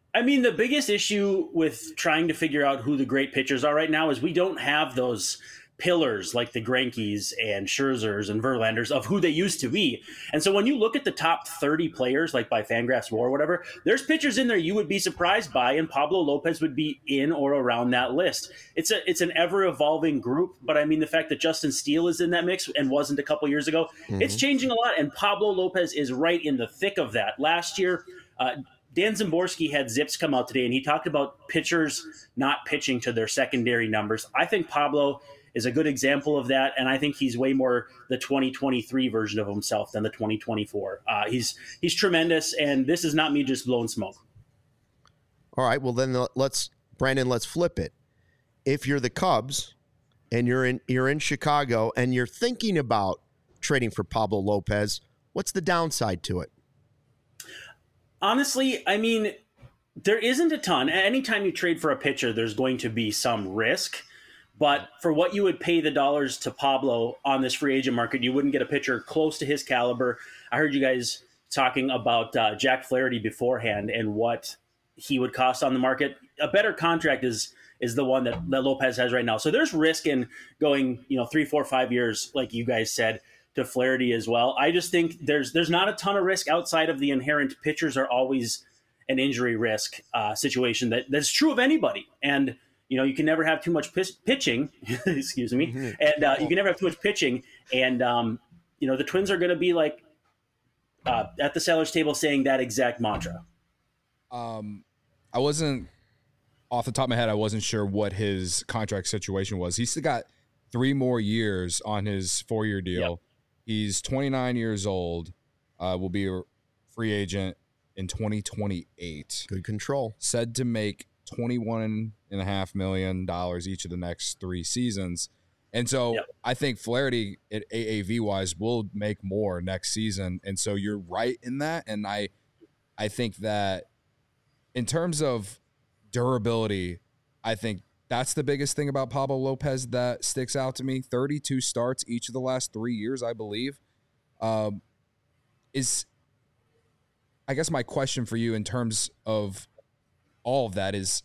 I mean, the biggest issue with trying to figure out who the great pitchers are right now is we don't have those pillars like the Grenkes and Scherzers and Verlanders of who they used to be. And so when you look at the top thirty players, like by Fangraphs War or whatever, there's pitchers in there you would be surprised by, and Pablo Lopez would be in or around that list. It's a it's an ever evolving group, but I mean the fact that Justin Steele is in that mix and wasn't a couple years ago, mm-hmm. it's changing a lot, and Pablo Lopez is right in the thick of that. Last year, uh, Dan Szymborski had Zips come out today, and he talked about pitchers not pitching to their secondary numbers. I think Pablo is a good example of that, and I think he's way more the twenty twenty-three version of himself than the twenty twenty-four. Uh, he's he's tremendous, and this is not me just blowing smoke. All right, well then let's Brandon, let's flip it. If you're the Cubs and you're in you're in Chicago and you're thinking about trading for Pablo Lopez, what's the downside to it? Honestly, I mean, there isn't a ton. Anytime you trade for a pitcher, there's going to be some risk. But for what you would pay the dollars to Pablo on this free agent market, you wouldn't get a pitcher close to his caliber. I heard you guys talking about uh, Jack Flaherty beforehand and what he would cost on the market. A better contract is is the one that, that Lopez has right now. So there's risk in going, you know, three, four, five years, like you guys said, to Flaherty as well. I just think there's there's not a ton of risk outside of the inherent pitchers are always an injury risk uh, situation that, that's true of anybody. And you know, you can never have too much pitch, pitching, excuse me, mm-hmm. and uh, you can never have too much pitching. And, um, you know, the Twins are going to be like uh, at the seller's table saying that exact mantra. Um, I wasn't, off the top of my head, I wasn't sure what his contract situation was. He's still got three more years on his four-year deal. Yep. He's twenty-nine years old, uh, will be a free agent in twenty twenty-eight. Good control. Said to make twenty-one and a half million dollars each of the next three seasons. And so yep. I think Flaherty at A A V wise will make more next season. And so you're right in that. And I, I think that in terms of durability, I think that's the biggest thing about Pablo Lopez that sticks out to me. thirty-two starts each of the last three years, I believe. Um, is, I guess my question for you in terms of all of that is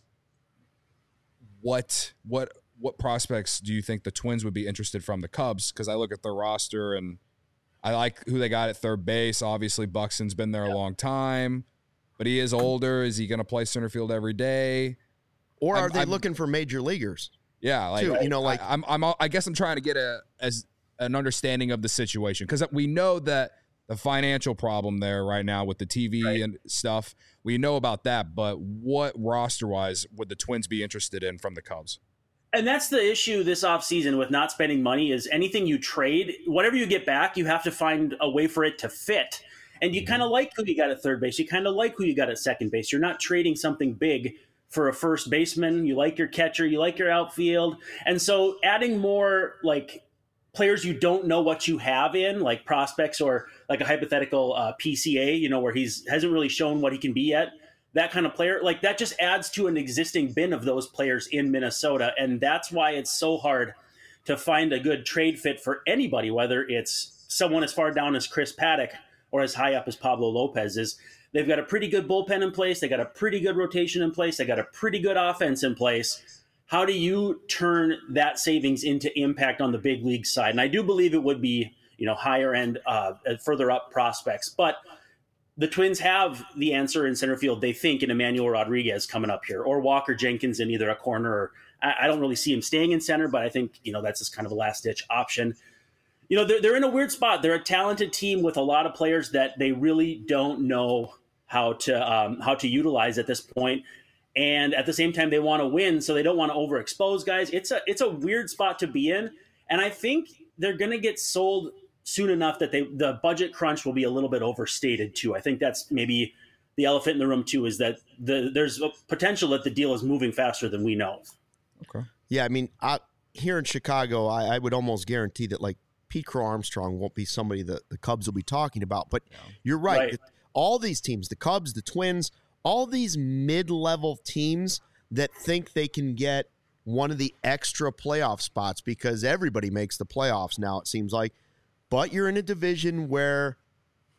what what what prospects do you think the Twins would be interested from the Cubs? Because I look at their roster and I like who they got at third base. Obviously, Buxton's been there a long time, but he is older. Is he going to play center field every day? Or are I'm, they I'm, looking for major leaguers? Yeah, like too, you know, like I, I'm I'm I guess I'm trying to get a as an understanding of the situation because we know that the financial problem there right now with the T V right. and stuff. We know about that, but what roster-wise would the Twins be interested in from the Cubs? And that's the issue this offseason with not spending money is anything you trade, whatever you get back, you have to find a way for it to fit. And you mm-hmm. kind of like who you got at third base. You kind of like who you got at second base. You're not trading something big for a first baseman. You like your catcher. You like your outfield. And so adding more like players you don't know what you have in, like prospects or like a hypothetical uh, P C A, you know, where he's hasn't really shown what he can be yet. That kind of player, like that just adds to an existing bin of those players in Minnesota. And that's why it's so hard to find a good trade fit for anybody, whether it's someone as far down as Chris Paddock or as high up as Pablo Lopez is. They've got a pretty good bullpen in place. They got a pretty good rotation in place. They got a pretty good offense in place. How do you turn that savings into impact on the big league side? And I do believe it would be, you know, higher end, uh, further up prospects. But the Twins have the answer in center field, they think, in Emmanuel Rodriguez coming up here, or Walker Jenkins in either a corner. Or I, I don't really see him staying in center, but I think, you know, that's just kind of a last-ditch option. You know, they're, they're in a weird spot. They're a talented team with a lot of players that they really don't know how to um, how to utilize at this point. And at the same time, they want to win, so they don't want to overexpose guys. It's a it's a weird spot to be in, and I think they're going to get sold soon enough that they the budget crunch will be a little bit overstated too. I think that's maybe the elephant in the room too, is that the there's a potential that the deal is moving faster than we know. Okay. Yeah, I mean, I, here in Chicago, I, I would almost guarantee that like Pete Crow Armstrong won't be somebody that the Cubs will be talking about. But yeah. You're right. right. All these teams, the Cubs, the Twins, all these mid-level teams that think they can get one of the extra playoff spots because everybody makes the playoffs now, it seems like. But you're in a division where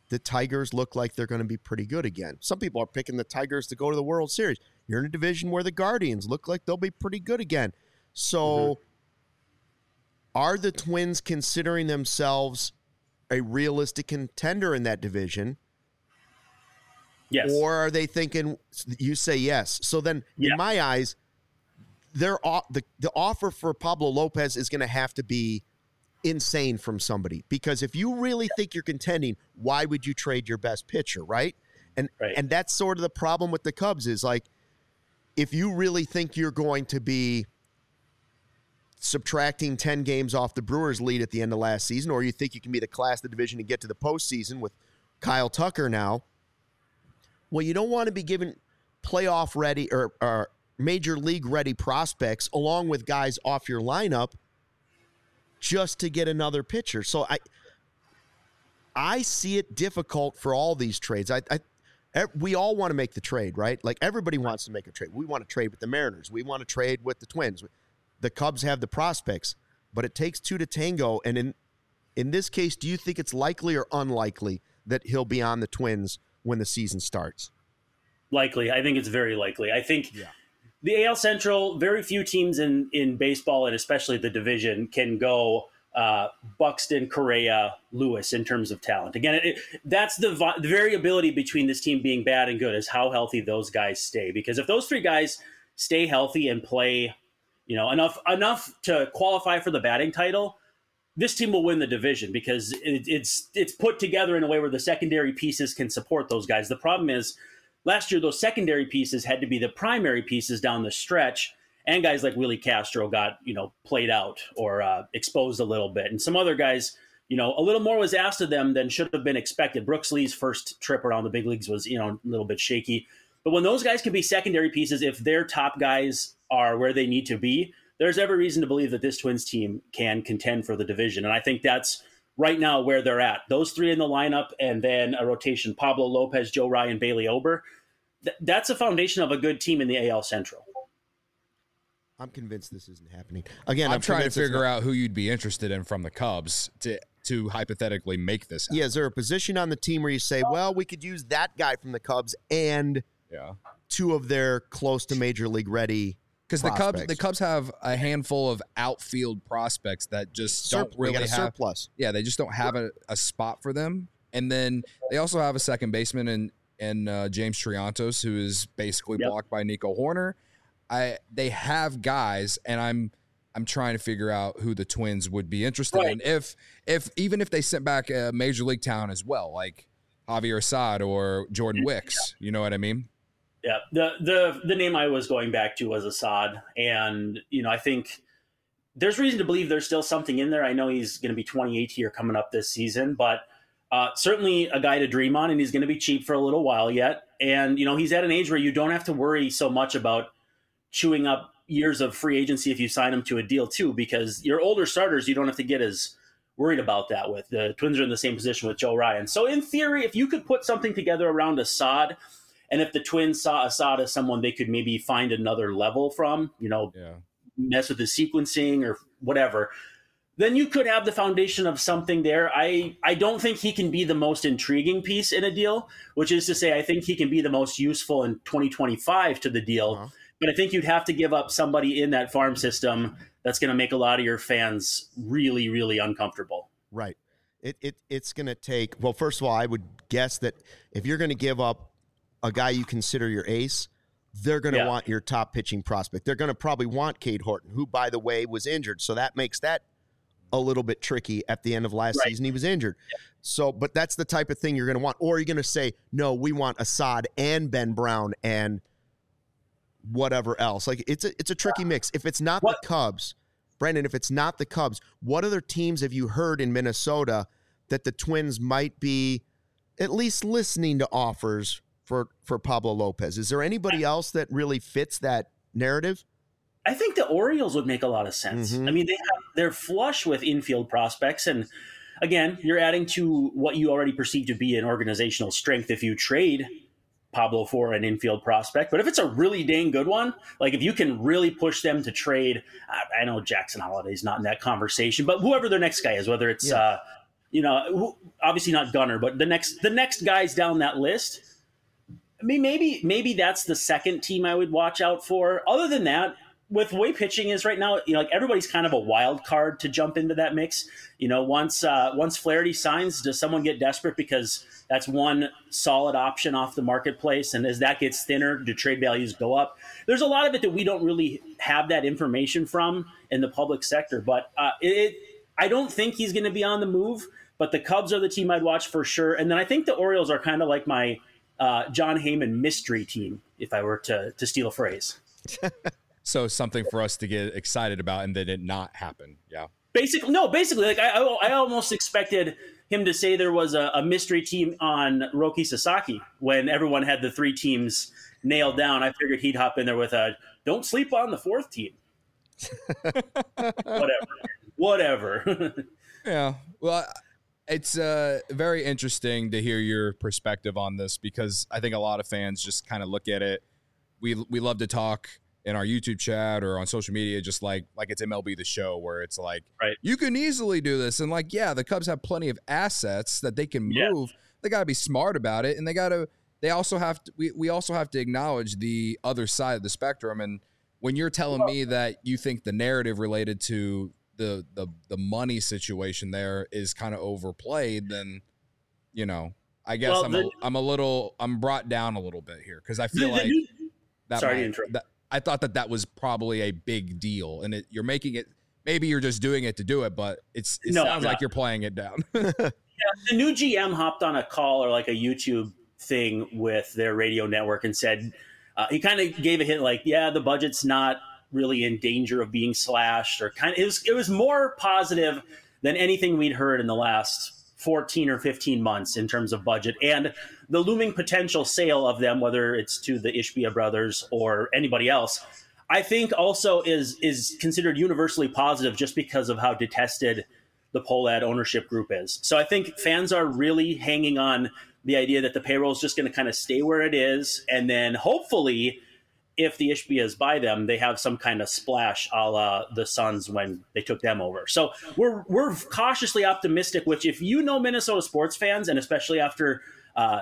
the Tigers look like they're going to be pretty good again. Some people are picking the Tigers to go to the World Series. You're in a division where the Guardians look like they'll be pretty good again. So mm-hmm. are the Twins considering themselves a realistic contender in that division? Yes. Or are they thinking, you say yes. So then yeah. in my eyes, they're, the, the offer for Pablo Lopez is going to have to be insane from somebody, because if you really think you're contending, why would you trade your best pitcher, right? And right. and that's sort of the problem with the Cubs is, like, if you really think you're going to be subtracting ten games off the Brewers' lead at the end of last season, or you think you can be the class of the division and get to the postseason with Kyle Tucker now, well, you don't want to be giving playoff ready or, or major league ready prospects along with guys off your lineup just to get another pitcher. So I I see it difficult for all these trades. I, I we all want to make the trade, right? Like, everybody wants to make a trade. We want to trade with the Mariners. We want to trade with the Twins. The Cubs have the prospects, but it takes two to tango. And in in this case, do you think it's likely or unlikely that he'll be on the Twins when the season starts? Likely. I think it's very likely. I think yeah. the A L Central, very few teams in, in baseball, and especially the division, can go uh, Buxton, Correa, Lewis in terms of talent. Again, it, it, that's the, the variability between this team being bad and good, is how healthy those guys stay. Because if those three guys stay healthy and play, you know, enough enough to qualify for the batting title, this team will win the division, because it, it's it's put together in a way where the secondary pieces can support those guys. The problem is, last year, those secondary pieces had to be the primary pieces down the stretch, and guys like Willie Castro got, you know, played out or uh, exposed a little bit. And some other guys, you know, a little more was asked of them than should have been expected. Brooks Lee's first trip around the big leagues was, you know, a little bit shaky. But when those guys can be secondary pieces, if their top guys are where they need to be, there's every reason to believe that this Twins team can contend for the division. And I think that's right now where they're at. Those three in the lineup, and then a rotation: Pablo Lopez, Joe Ryan, Bailey Ober. Th- that's a foundation of a good team in the A L Central. I'm convinced this isn't happening. Again, I'm, I'm trying to figure not- out who you'd be interested in from the Cubs to to hypothetically make this happen. Yeah, is there a position on the team where you say, well, we could use that guy from the Cubs and yeah. two of their close to major league ready? Because the Cubs, the Cubs have a handful of outfield prospects that just Sur- don't really got a have surplus. Yeah, they just don't have a, a spot for them. And then they also have a second baseman in in uh, James Triantos, who is basically Yep. blocked by Nico Horner. I they have guys, and I'm I'm trying to figure out who the Twins would be interested Right. in. If if even if they sent back a major league talent as well, like Javier Assad or Jordan Wicks, you know what I mean? Yeah, the the the name I was going back to was Assad, and you know, I think there's reason to believe there's still something in there. I know he's going to be twenty-eight here coming up this season, but uh, certainly a guy to dream on, and he's going to be cheap for a little while yet. And you know, he's at an age where you don't have to worry so much about chewing up years of free agency if you sign him to a deal too, because your older starters, you don't have to get as worried about that with. The Twins are in the same position with Joe Ryan. So in theory, if you could put something together around Assad, and if the Twins saw Assad as someone they could maybe find another level from, you know, Yeah. mess with the sequencing or whatever, then you could have the foundation of something there. I, I don't think he can be the most intriguing piece in a deal, which is to say, I think he can be the most useful in twenty twenty-five to the deal. Uh-huh. But I think you'd have to give up somebody in that farm system that's going to make a lot of your fans really, really uncomfortable. Right. It it It's going to take, well, first of all, I would guess that if you're going to give up a guy you consider your ace, they're going to Yeah. want your top pitching prospect. They're going to probably want Cade Horton, who, by the way, was injured. So that makes that a little bit tricky. At the end of last Right. season, he was injured. Yeah. So, but that's the type of thing you're going to want. Or you're going to say, no, we want Assad and Ben Brown and whatever else. Like, it's a, it's a tricky mix. If it's not What? the Cubs, Brandon, if it's not the Cubs, what other teams have you heard in Minnesota that the Twins might be at least listening to offers for, for Pablo Lopez? Is there anybody else that really fits that narrative? I think the Orioles would make a lot of sense. Mhm. I mean, they have, they're flush with infield prospects. And again, you're adding to what you already perceive to be an organizational strength if you trade Pablo for an infield prospect. But if it's a really dang good one, like if you can really push them to trade, I, I know Jackson Holliday's not in that conversation, but whoever their next guy is, whether it's Yeah. uh, you know, obviously not Gunnar, but the next the next guys down that list. I mean, maybe maybe that's the second team I would watch out for. Other than that, with the way pitching is right now, you know, like everybody's kind of a wild card to jump into that mix. You know, once uh, once Flaherty signs, does someone get desperate because that's one solid option off the marketplace? And as that gets thinner, do trade values go up? There's a lot of it that we don't really have that information from in the public sector. But uh, it, I don't think he's going to be on the move. But the Cubs are the team I'd watch for sure. And then I think the Orioles are kind of like my uh, John Heyman mystery team, if I were to to steal a phrase. So something for us to get excited about and then it not happen. Yeah. Basically, no, basically, like I, I almost expected him to say there was a, a mystery team on Roki Sasaki when everyone had the three teams nailed down. I figured he'd hop in there with a don't sleep on the fourth team. Whatever. Whatever. Yeah. Well, it's uh, very interesting to hear your perspective on this because I think a lot of fans just kind of look at it. We we love to talk in our YouTube chat or on social media, just like like it's M L B The Show, where it's like, right, you can easily do this. And like, yeah, the Cubs have plenty of assets that they can move. Yeah. They got to be smart about it. And they got to, they also have to, we, we also have to acknowledge the other side of the spectrum. And when you're telling me that you think the narrative related to the, the, the money situation there is kind of overplayed, then, you know, I guess well, I'm, the, a, I'm a little, I'm brought down a little bit here. Cause I feel the, like the, that, sorry might, to interrupt. that I thought that that was probably a big deal, and it, you're making it. Maybe you're just doing it to do it, but it's it no, sounds like you're playing it down. Yeah, the new G M hopped on a call or like a YouTube thing with their radio network and said uh, he kind of gave a hint like, yeah, the budget's not really in danger of being slashed, or kind of it was it was more positive than anything we'd heard in the last fourteen or fifteen months in terms of budget and the looming potential sale of them, whether it's to the Ishbia brothers or anybody else, I think also is is considered universally positive just because of how detested the Pohlad ownership group is. So I think fans are really hanging on the idea that the payroll is just going to kind of stay where it is. And then hopefully if the Ishbias buy them, they have some kind of splash a la the Suns when they took them over. So we're we're cautiously optimistic, which if you know Minnesota sports fans, and especially after uh,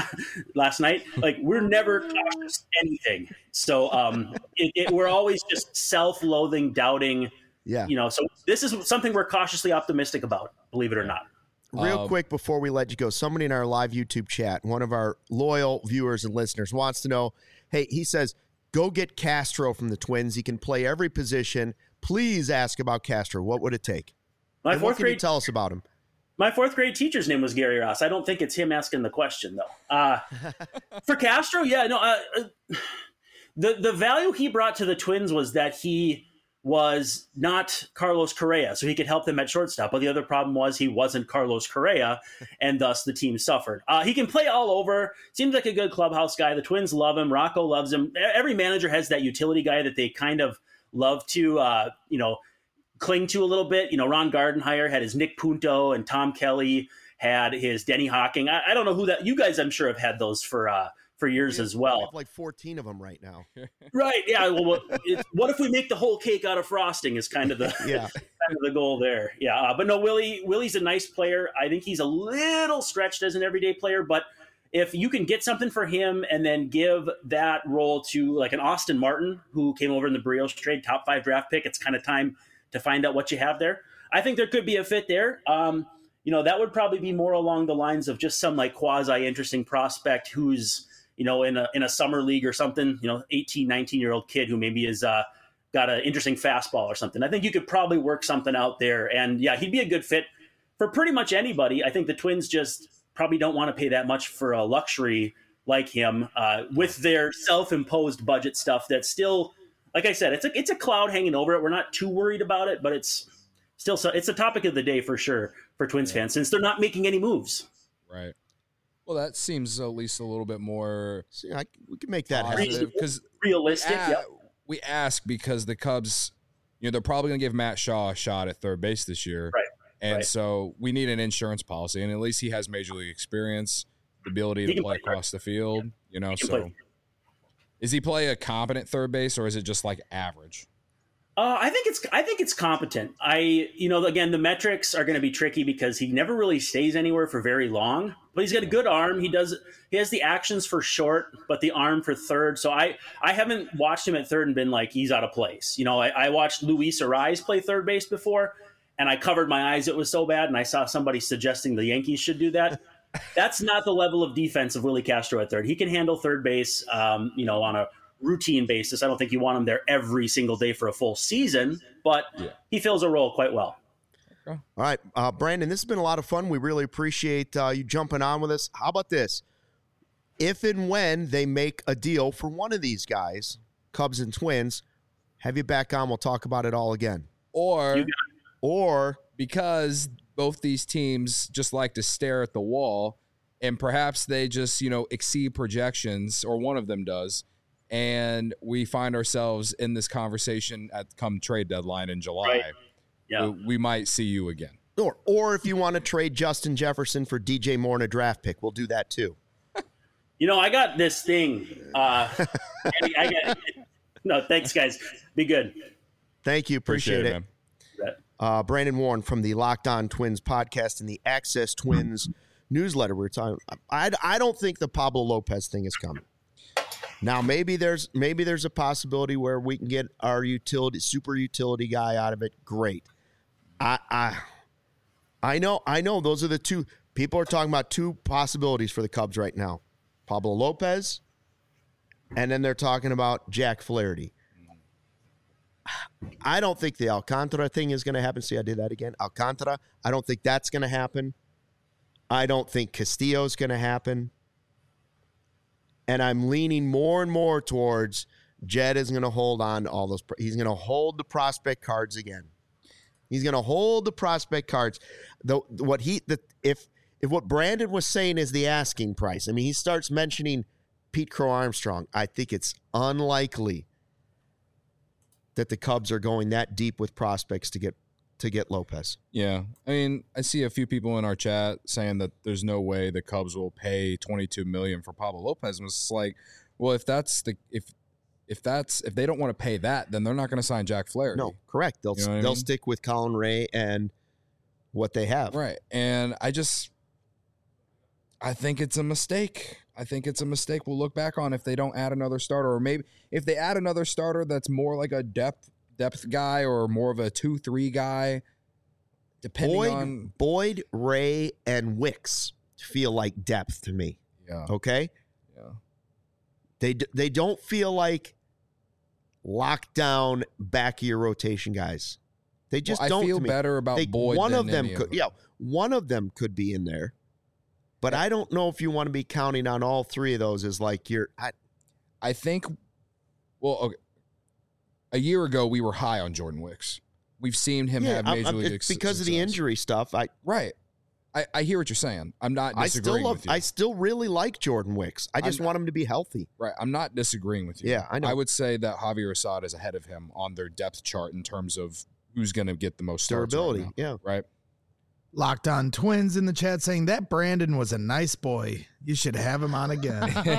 last night, like we're never cautious anything. So um, it, it, we're always just self-loathing, doubting. Yeah. You know, so this is something we're cautiously optimistic about, believe it or not. Real Um, quick before we let you go, somebody in our live YouTube chat, one of our loyal viewers and listeners wants to know, hey, he says, go get Castro from the Twins. He can play every position. Please ask about Castro. What would it take? My and fourth what can grade you tell us about him? My fourth grade teacher's name was Gary Ross. I don't think it's him asking the question though. Uh, for Castro, yeah, no. Uh, uh, the the value he brought to the Twins was that he was not Carlos Correa, so he could help them at shortstop. But the other problem was he wasn't Carlos Correa, and thus the team suffered. Uh, he can play all over. Seems like a good clubhouse guy. The Twins love him. Rocco loves him. Every manager has that utility guy that they kind of love to, uh, you know, cling to a little bit. You know, Ron Gardenhire had his Nick Punto, and Tom Kelly had his Denny Hawking. I, I don't know who that. You guys, I'm sure, have had those for uh, for years have, as well. I have like fourteen of them right now. Right? Yeah. Well, what, it, what if we make the whole cake out of frosting? Is kind of the yeah. kind of the goal there. Yeah. Uh, but no, Willie. Willie's a nice player. I think he's a little stretched as an everyday player, but if you can get something for him and then give that role to like an Austin Martin who came over in the Brios trade, top five draft pick, it's kind of time to find out what you have there. I think there could be a fit there. Um, you know, that would probably be more along the lines of just some like quasi interesting prospect who's, you know, in a, in a summer league or something, you know, eighteen, nineteen year old kid who maybe is uh, got an interesting fastball or something. I think you could probably work something out there. And yeah, he'd be a good fit for pretty much anybody. I think the Twins just probably don't want to pay that much for a luxury like him uh, with their self-imposed budget stuff that's still, like I said, it's a it's a cloud hanging over it. We're not too worried about it, but it's still so it's a topic of the day for sure for Twins yeah. fans since they're not making any moves. Right. Well, that seems at least a little bit more. See, I, we can make that happen because realistic. We, yeah. we ask because the Cubs, you know, they're probably going to give Matt Shaw a shot at third base this year, right? And right. so we need an insurance policy, and at least he has major league experience, the ability to play, play across right. the field. Yeah. You know, so. Play. Is he play a competent third base, or is it just like average? Uh, I think it's I think it's competent. I you know again the metrics are going to be tricky because he never really stays anywhere for very long. But he's got a good arm. He does he has the actions for short, but the arm for third. So I I haven't watched him at third and been like he's out of place. You know I, I watched Luis Ariz play third base before, and I covered my eyes. It was so bad, and I saw somebody suggesting the Yankees should do that. That's not the level of defense of Willie Castro at third. He can handle third base. Um, you know on a routine basis. I don't think you want him there every single day for a full season, but yeah. he fills a role quite well. Okay. All right, uh, Brandon, this has been a lot of fun. We really appreciate uh, you jumping on with us. How about this? If and when they make a deal for one of these guys, Cubs and Twins, have you back on. We'll talk about it all again. Or, or because both these teams just like to stare at the wall, and perhaps they just, you know, exceed projections, or one of them does, and we find ourselves in this conversation at come trade deadline in July. Right. Yeah. we, we might see you again. Or, or if you want to trade Justin Jefferson for D J Moore in a draft pick, we'll do that too. You know, I got this thing. Uh, I got, no, thanks, guys. Be good. Thank you. Appreciate, Appreciate it. it. Uh, Brandon Warren from the Locked On Twins podcast and the Access Twins newsletter. We were talking. I, I don't think the Pablo Lopez thing is coming. Now, maybe there's maybe there's a possibility where we can get our utility super utility guy out of it. Great. I I I know I know those are the two people are talking about two possibilities for the Cubs right now. Pablo Lopez, and then they're talking about Jack Flaherty. I don't think the Alcantara thing is going to happen. See, I did that again. Alcantara, I don't think that's going to happen. I don't think Castillo's going to happen. And I'm leaning more and more towards Jed is going to hold on to all those. He's going to hold the prospect cards again. He's going to hold the prospect cards. The what he the if if what Brandon was saying is the asking price. I mean, he starts mentioning Pete Crow Armstrong. I think it's unlikely that the Cubs are going that deep with prospects to get to get Lopez. Yeah. I mean, I see a few people in our chat saying that there's no way the Cubs will pay twenty-two million dollars for Pablo Lopez. And it's like, well, if that's the if if that's if they don't want to pay that, then they're not going to sign Jack Flaherty. No, correct. They'll you know they'll I mean? stick with Colin Ray and what they have. Right. And I just I think it's a mistake. I think it's a mistake we'll look back on if they don't add another starter, or maybe if they add another starter that's more like a depth depth guy or more of a two three guy, depending Boyd, on Boyd, Ray, and Wicks feel like depth to me. Yeah. Okay. Yeah. They they don't feel like lockdown back of your rotation guys. They just well, don't. I feel to me. better about they, Boyd. One than of them any could. of them. Yeah, one of them could be in there. But I don't know if you want to be counting on all three of those as like you're. I, I think. Well, okay. A year ago we were high on Jordan Wicks. We've seen him yeah, have major I'm, I'm, league it's success. because of the injury stuff. I right. I, I hear what you're saying. I'm not I disagreeing still love. with you. I still really like Jordan Wicks. I just I'm, want him to be healthy. Right. I'm not disagreeing with you. Yeah, I know. I would say that Javier Assad is ahead of him on their depth chart in terms of who's going to get the most starts Durability. right now, yeah. Right. Locked On Twins in the chat saying that Brandon was a nice boy. You should have him on again.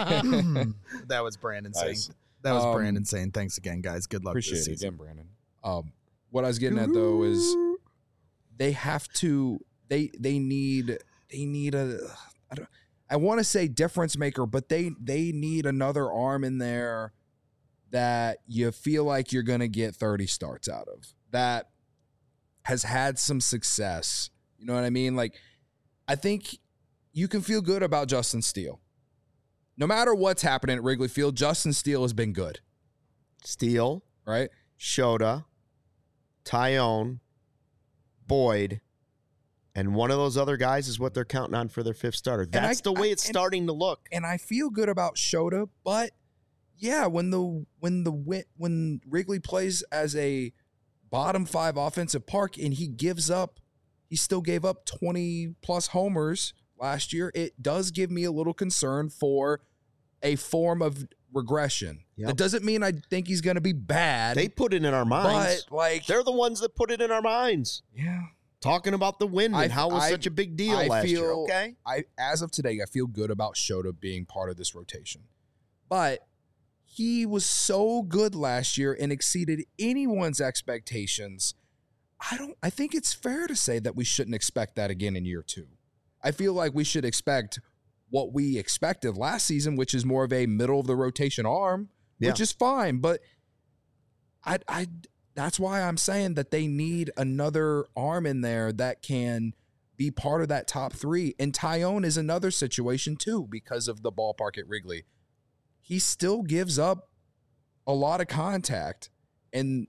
That was Brandon Nice. saying. That was Um, Brandon saying, thanks again, guys. Good luck Appreciate this it season. again, Brandon. Um, what I was getting at though is they have to. They they need they need a. I don't. I want to say difference maker, but they they need another arm in there that you feel like you're gonna get thirty starts out of. That has had some success. You know what I mean? Like, I think you can feel good about Justin Steele. No matter what's happening at Wrigley Field, Justin Steele has been good. Steele, Right? Shota, Tyone, Boyd, and one of those other guys is what they're counting on for their fifth starter. That's I- the way I- it's and- starting to look. And I feel good about Shota, but yeah, when the when the win- when Wrigley plays as a bottom five offensive park and he gives up, he still gave up twenty plus homers last year. It does give me a little concern for a form of regression. Yep. That doesn't mean I think he's going to be bad. They put it in our minds. but like, They're the ones that put it in our minds. yeah, Talking about the win I- and how it was I- such a big deal I last year. feel- Okay. I as of today, I feel good about Shota being part of this rotation, but he was so good last year and exceeded anyone's expectations. I don't I think it's fair to say that we shouldn't expect that again in year two. I feel like we should expect what we expected last season, which is more of a middle of the rotation arm, yeah. which is fine. But I, I, that's why I'm saying that they need another arm in there that can be part of that top three. And Tyone is another situation too, because of the ballpark at Wrigley. He still gives up a lot of contact, and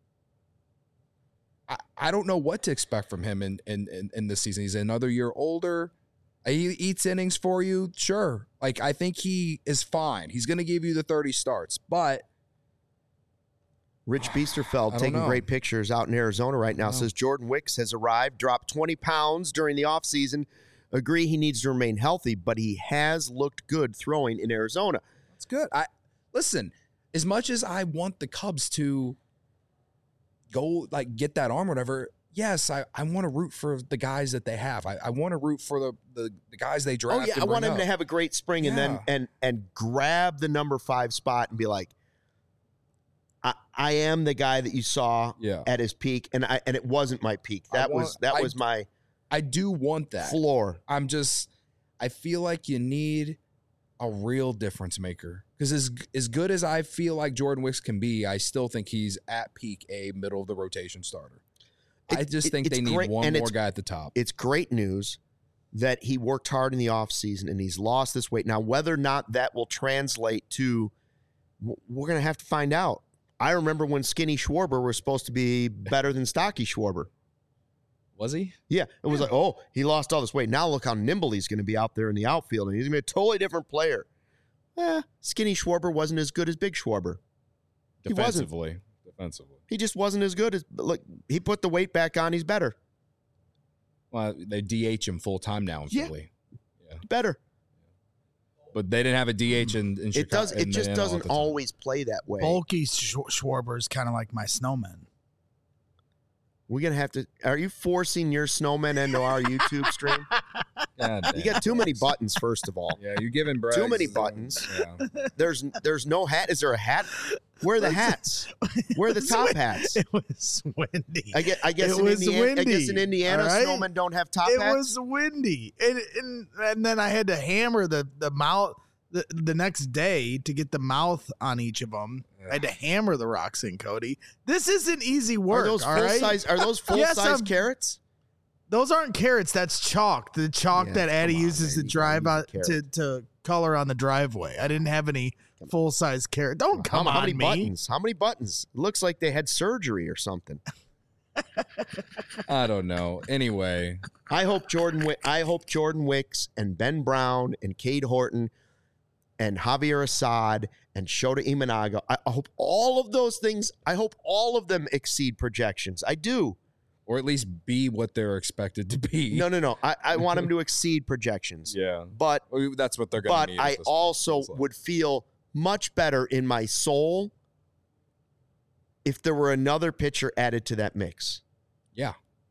I, I don't know what to expect from him in, in, in, in this season. He's another year older. He eats innings for you, sure. Like, I think he is fine. He's going to give you the thirty starts, but Rich Biesterfeld taking know. great pictures out in Arizona right now says Jordan Wicks has arrived, dropped twenty pounds during the offseason. Agree he needs to remain healthy, but he has looked good throwing in Arizona. That's good. I listen, as much as I want the Cubs to go like get that arm or whatever, yes, I, I want to root for the guys that they have. I, I want to root for the, the, the guys they draft. Oh, yeah, I want him up. to have a great spring yeah. and then and and grab the number five spot and be like, I, I am the guy that you saw yeah. at his peak, and I and it wasn't my peak. That want, was that I, was my I do want that floor. I'm just I feel like you need a real difference maker. Because as as good as I feel like Jordan Wicks can be, I still think he's at peak a middle of the rotation starter. It, I just think they need great, one more guy at the top. It's great news that he worked hard in the offseason and he's lost this weight. Now, whether or not that will translate to, we're going to have to find out. I remember when Skinny Schwarber was supposed to be better than Stocky Schwarber. Was he? Yeah. It was yeah. like, oh, he lost all this weight. Now look how nimble he's going to be out there in the outfield, and he's going to be a totally different player. Eh, Skinny Schwarber wasn't as good as Big Schwarber. He Defensively. wasn't. Defensively. He just wasn't as good as, look, he put the weight back on. He's better. Well, they D H him full time now in yeah. Philly. Yeah. Better. But they didn't have a D H in, in Chicago. It does. It just doesn't always play that way. Bulky Sch- Schwarber is kind of like my snowman. We're going to have to, are you forcing your snowman into our YouTube stream? You got too many buttons, first of all. Yeah, you're giving Braggs. Too many buttons. Yeah. There's there's no hat. Is there a hat? Where are the hats? Where are the top hats? It was windy. I guess, I guess, it in, was Indiana, windy, I guess in Indiana, right? snowmen don't have top it hats. It was windy. And, and and then I had to hammer the, the mouth the, the next day to get the mouth on each of them. I had to hammer the rocks in, Cody. This isn't easy work. Are those all full right? size? Are those full yes, size I'm, carrots? Those aren't carrots. That's chalk. The chalk yeah, that Addie on, uses man. to drive out to, to color on the driveway. I didn't have any full size carrot. Don't come how, on how many me. buttons? How many buttons? It looks like they had surgery or something. I don't know. Anyway, I hope Jordan. I hope Jordan Wicks and Ben Brown and Cade Horton and Javier Assad and Shota Imanaga. I hope all of those things, I hope all of them exceed projections. I do. Or at least be what they're expected to be. No, no, no. I, I want them to exceed projections. Yeah. But well, that's what they're going to But need I also point, would feel much better in my soul if there were another pitcher added to that mix. Yeah.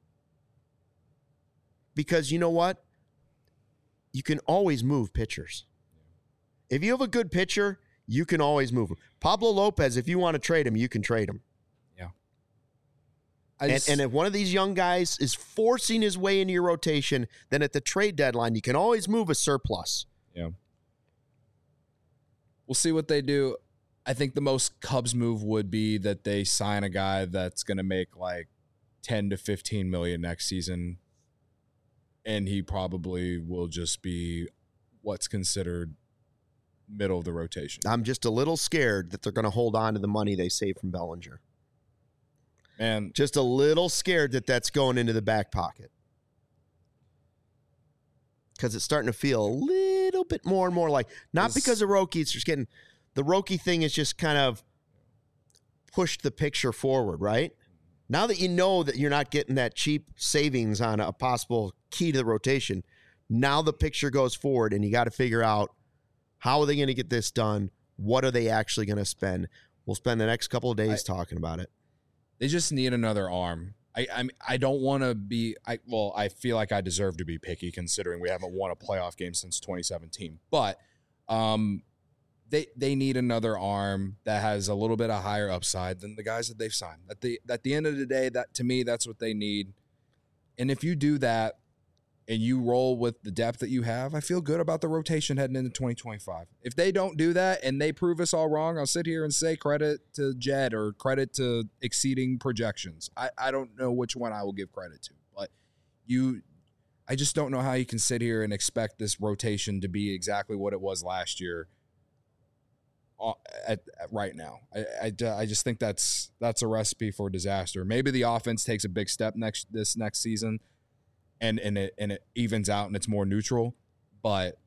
Because you know what? You can always move pitchers. If you have a good pitcher, you can always move him. Pablo Lopez, if you want to trade him, you can trade him. Yeah. And, just, and if one of these young guys is forcing his way into your rotation, then at the trade deadline, you can always move a surplus. Yeah. We'll see what they do. I think the most Cubs move would be that they sign a guy that's going to make like ten to fifteen million next season. And he probably will just be what's considered middle of the rotation. I'm just a little scared that they're going to hold on to the money they saved from Bellinger. Man, just a little scared that that's going into the back pocket. Because it's starting to feel a little bit more and more like, not because of Roki, it's just getting, the Roki thing is just kind of pushed the picture forward, right? Now that you know that you're not getting that cheap savings on a possible key to the rotation, now the picture goes forward and you got to figure out, how are they going to get this done? What are they actually going to spend? We'll spend the next couple of days I, talking about it. They just need another arm. I I, I don't want to be I well, I feel like I deserve to be picky considering we haven't won a playoff game since twenty seventeen. But um, they they need another arm that has a little bit of higher upside than the guys that they've signed. At the at the end of the day, that to me, that's what they need. And if you do that and you roll with the depth that you have, I feel good about the rotation heading into twenty twenty-five. If they don't do that and they prove us all wrong, I'll sit here and say credit to Jed or credit to exceeding projections. I, I don't know which one I will give credit to, but you, I just don't know how you can sit here and expect this rotation to be exactly what it was last year at, at right now. I, I, I just think that's that's a recipe for disaster. Maybe the offense takes a big step next this next season, and and it and it evens out and it's more neutral, but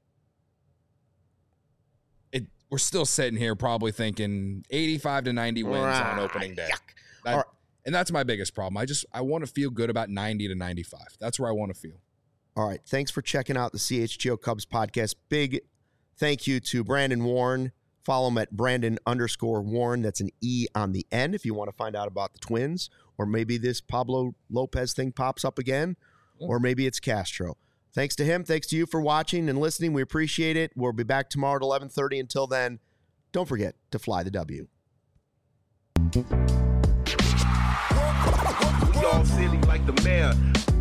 it we're still sitting here probably thinking eighty-five to ninety wins ah, on opening day. That, right. And that's my biggest problem. I just I want to feel good about ninety to ninety-five. That's where I want to feel. All right. Thanks for checking out the C H G O Cubs podcast. Big thank you to Brandon Warne. Follow him at Brandon underscore Warren. That's an E on the end if you want to find out about the Twins, or maybe this Pablo Lopez thing pops up again, yeah. or maybe it's Castro. Thanks to him. Thanks to you for watching and listening. We appreciate it. We'll be back tomorrow at eleven thirty. Until then, don't forget to fly the W. We all silly like the mayor.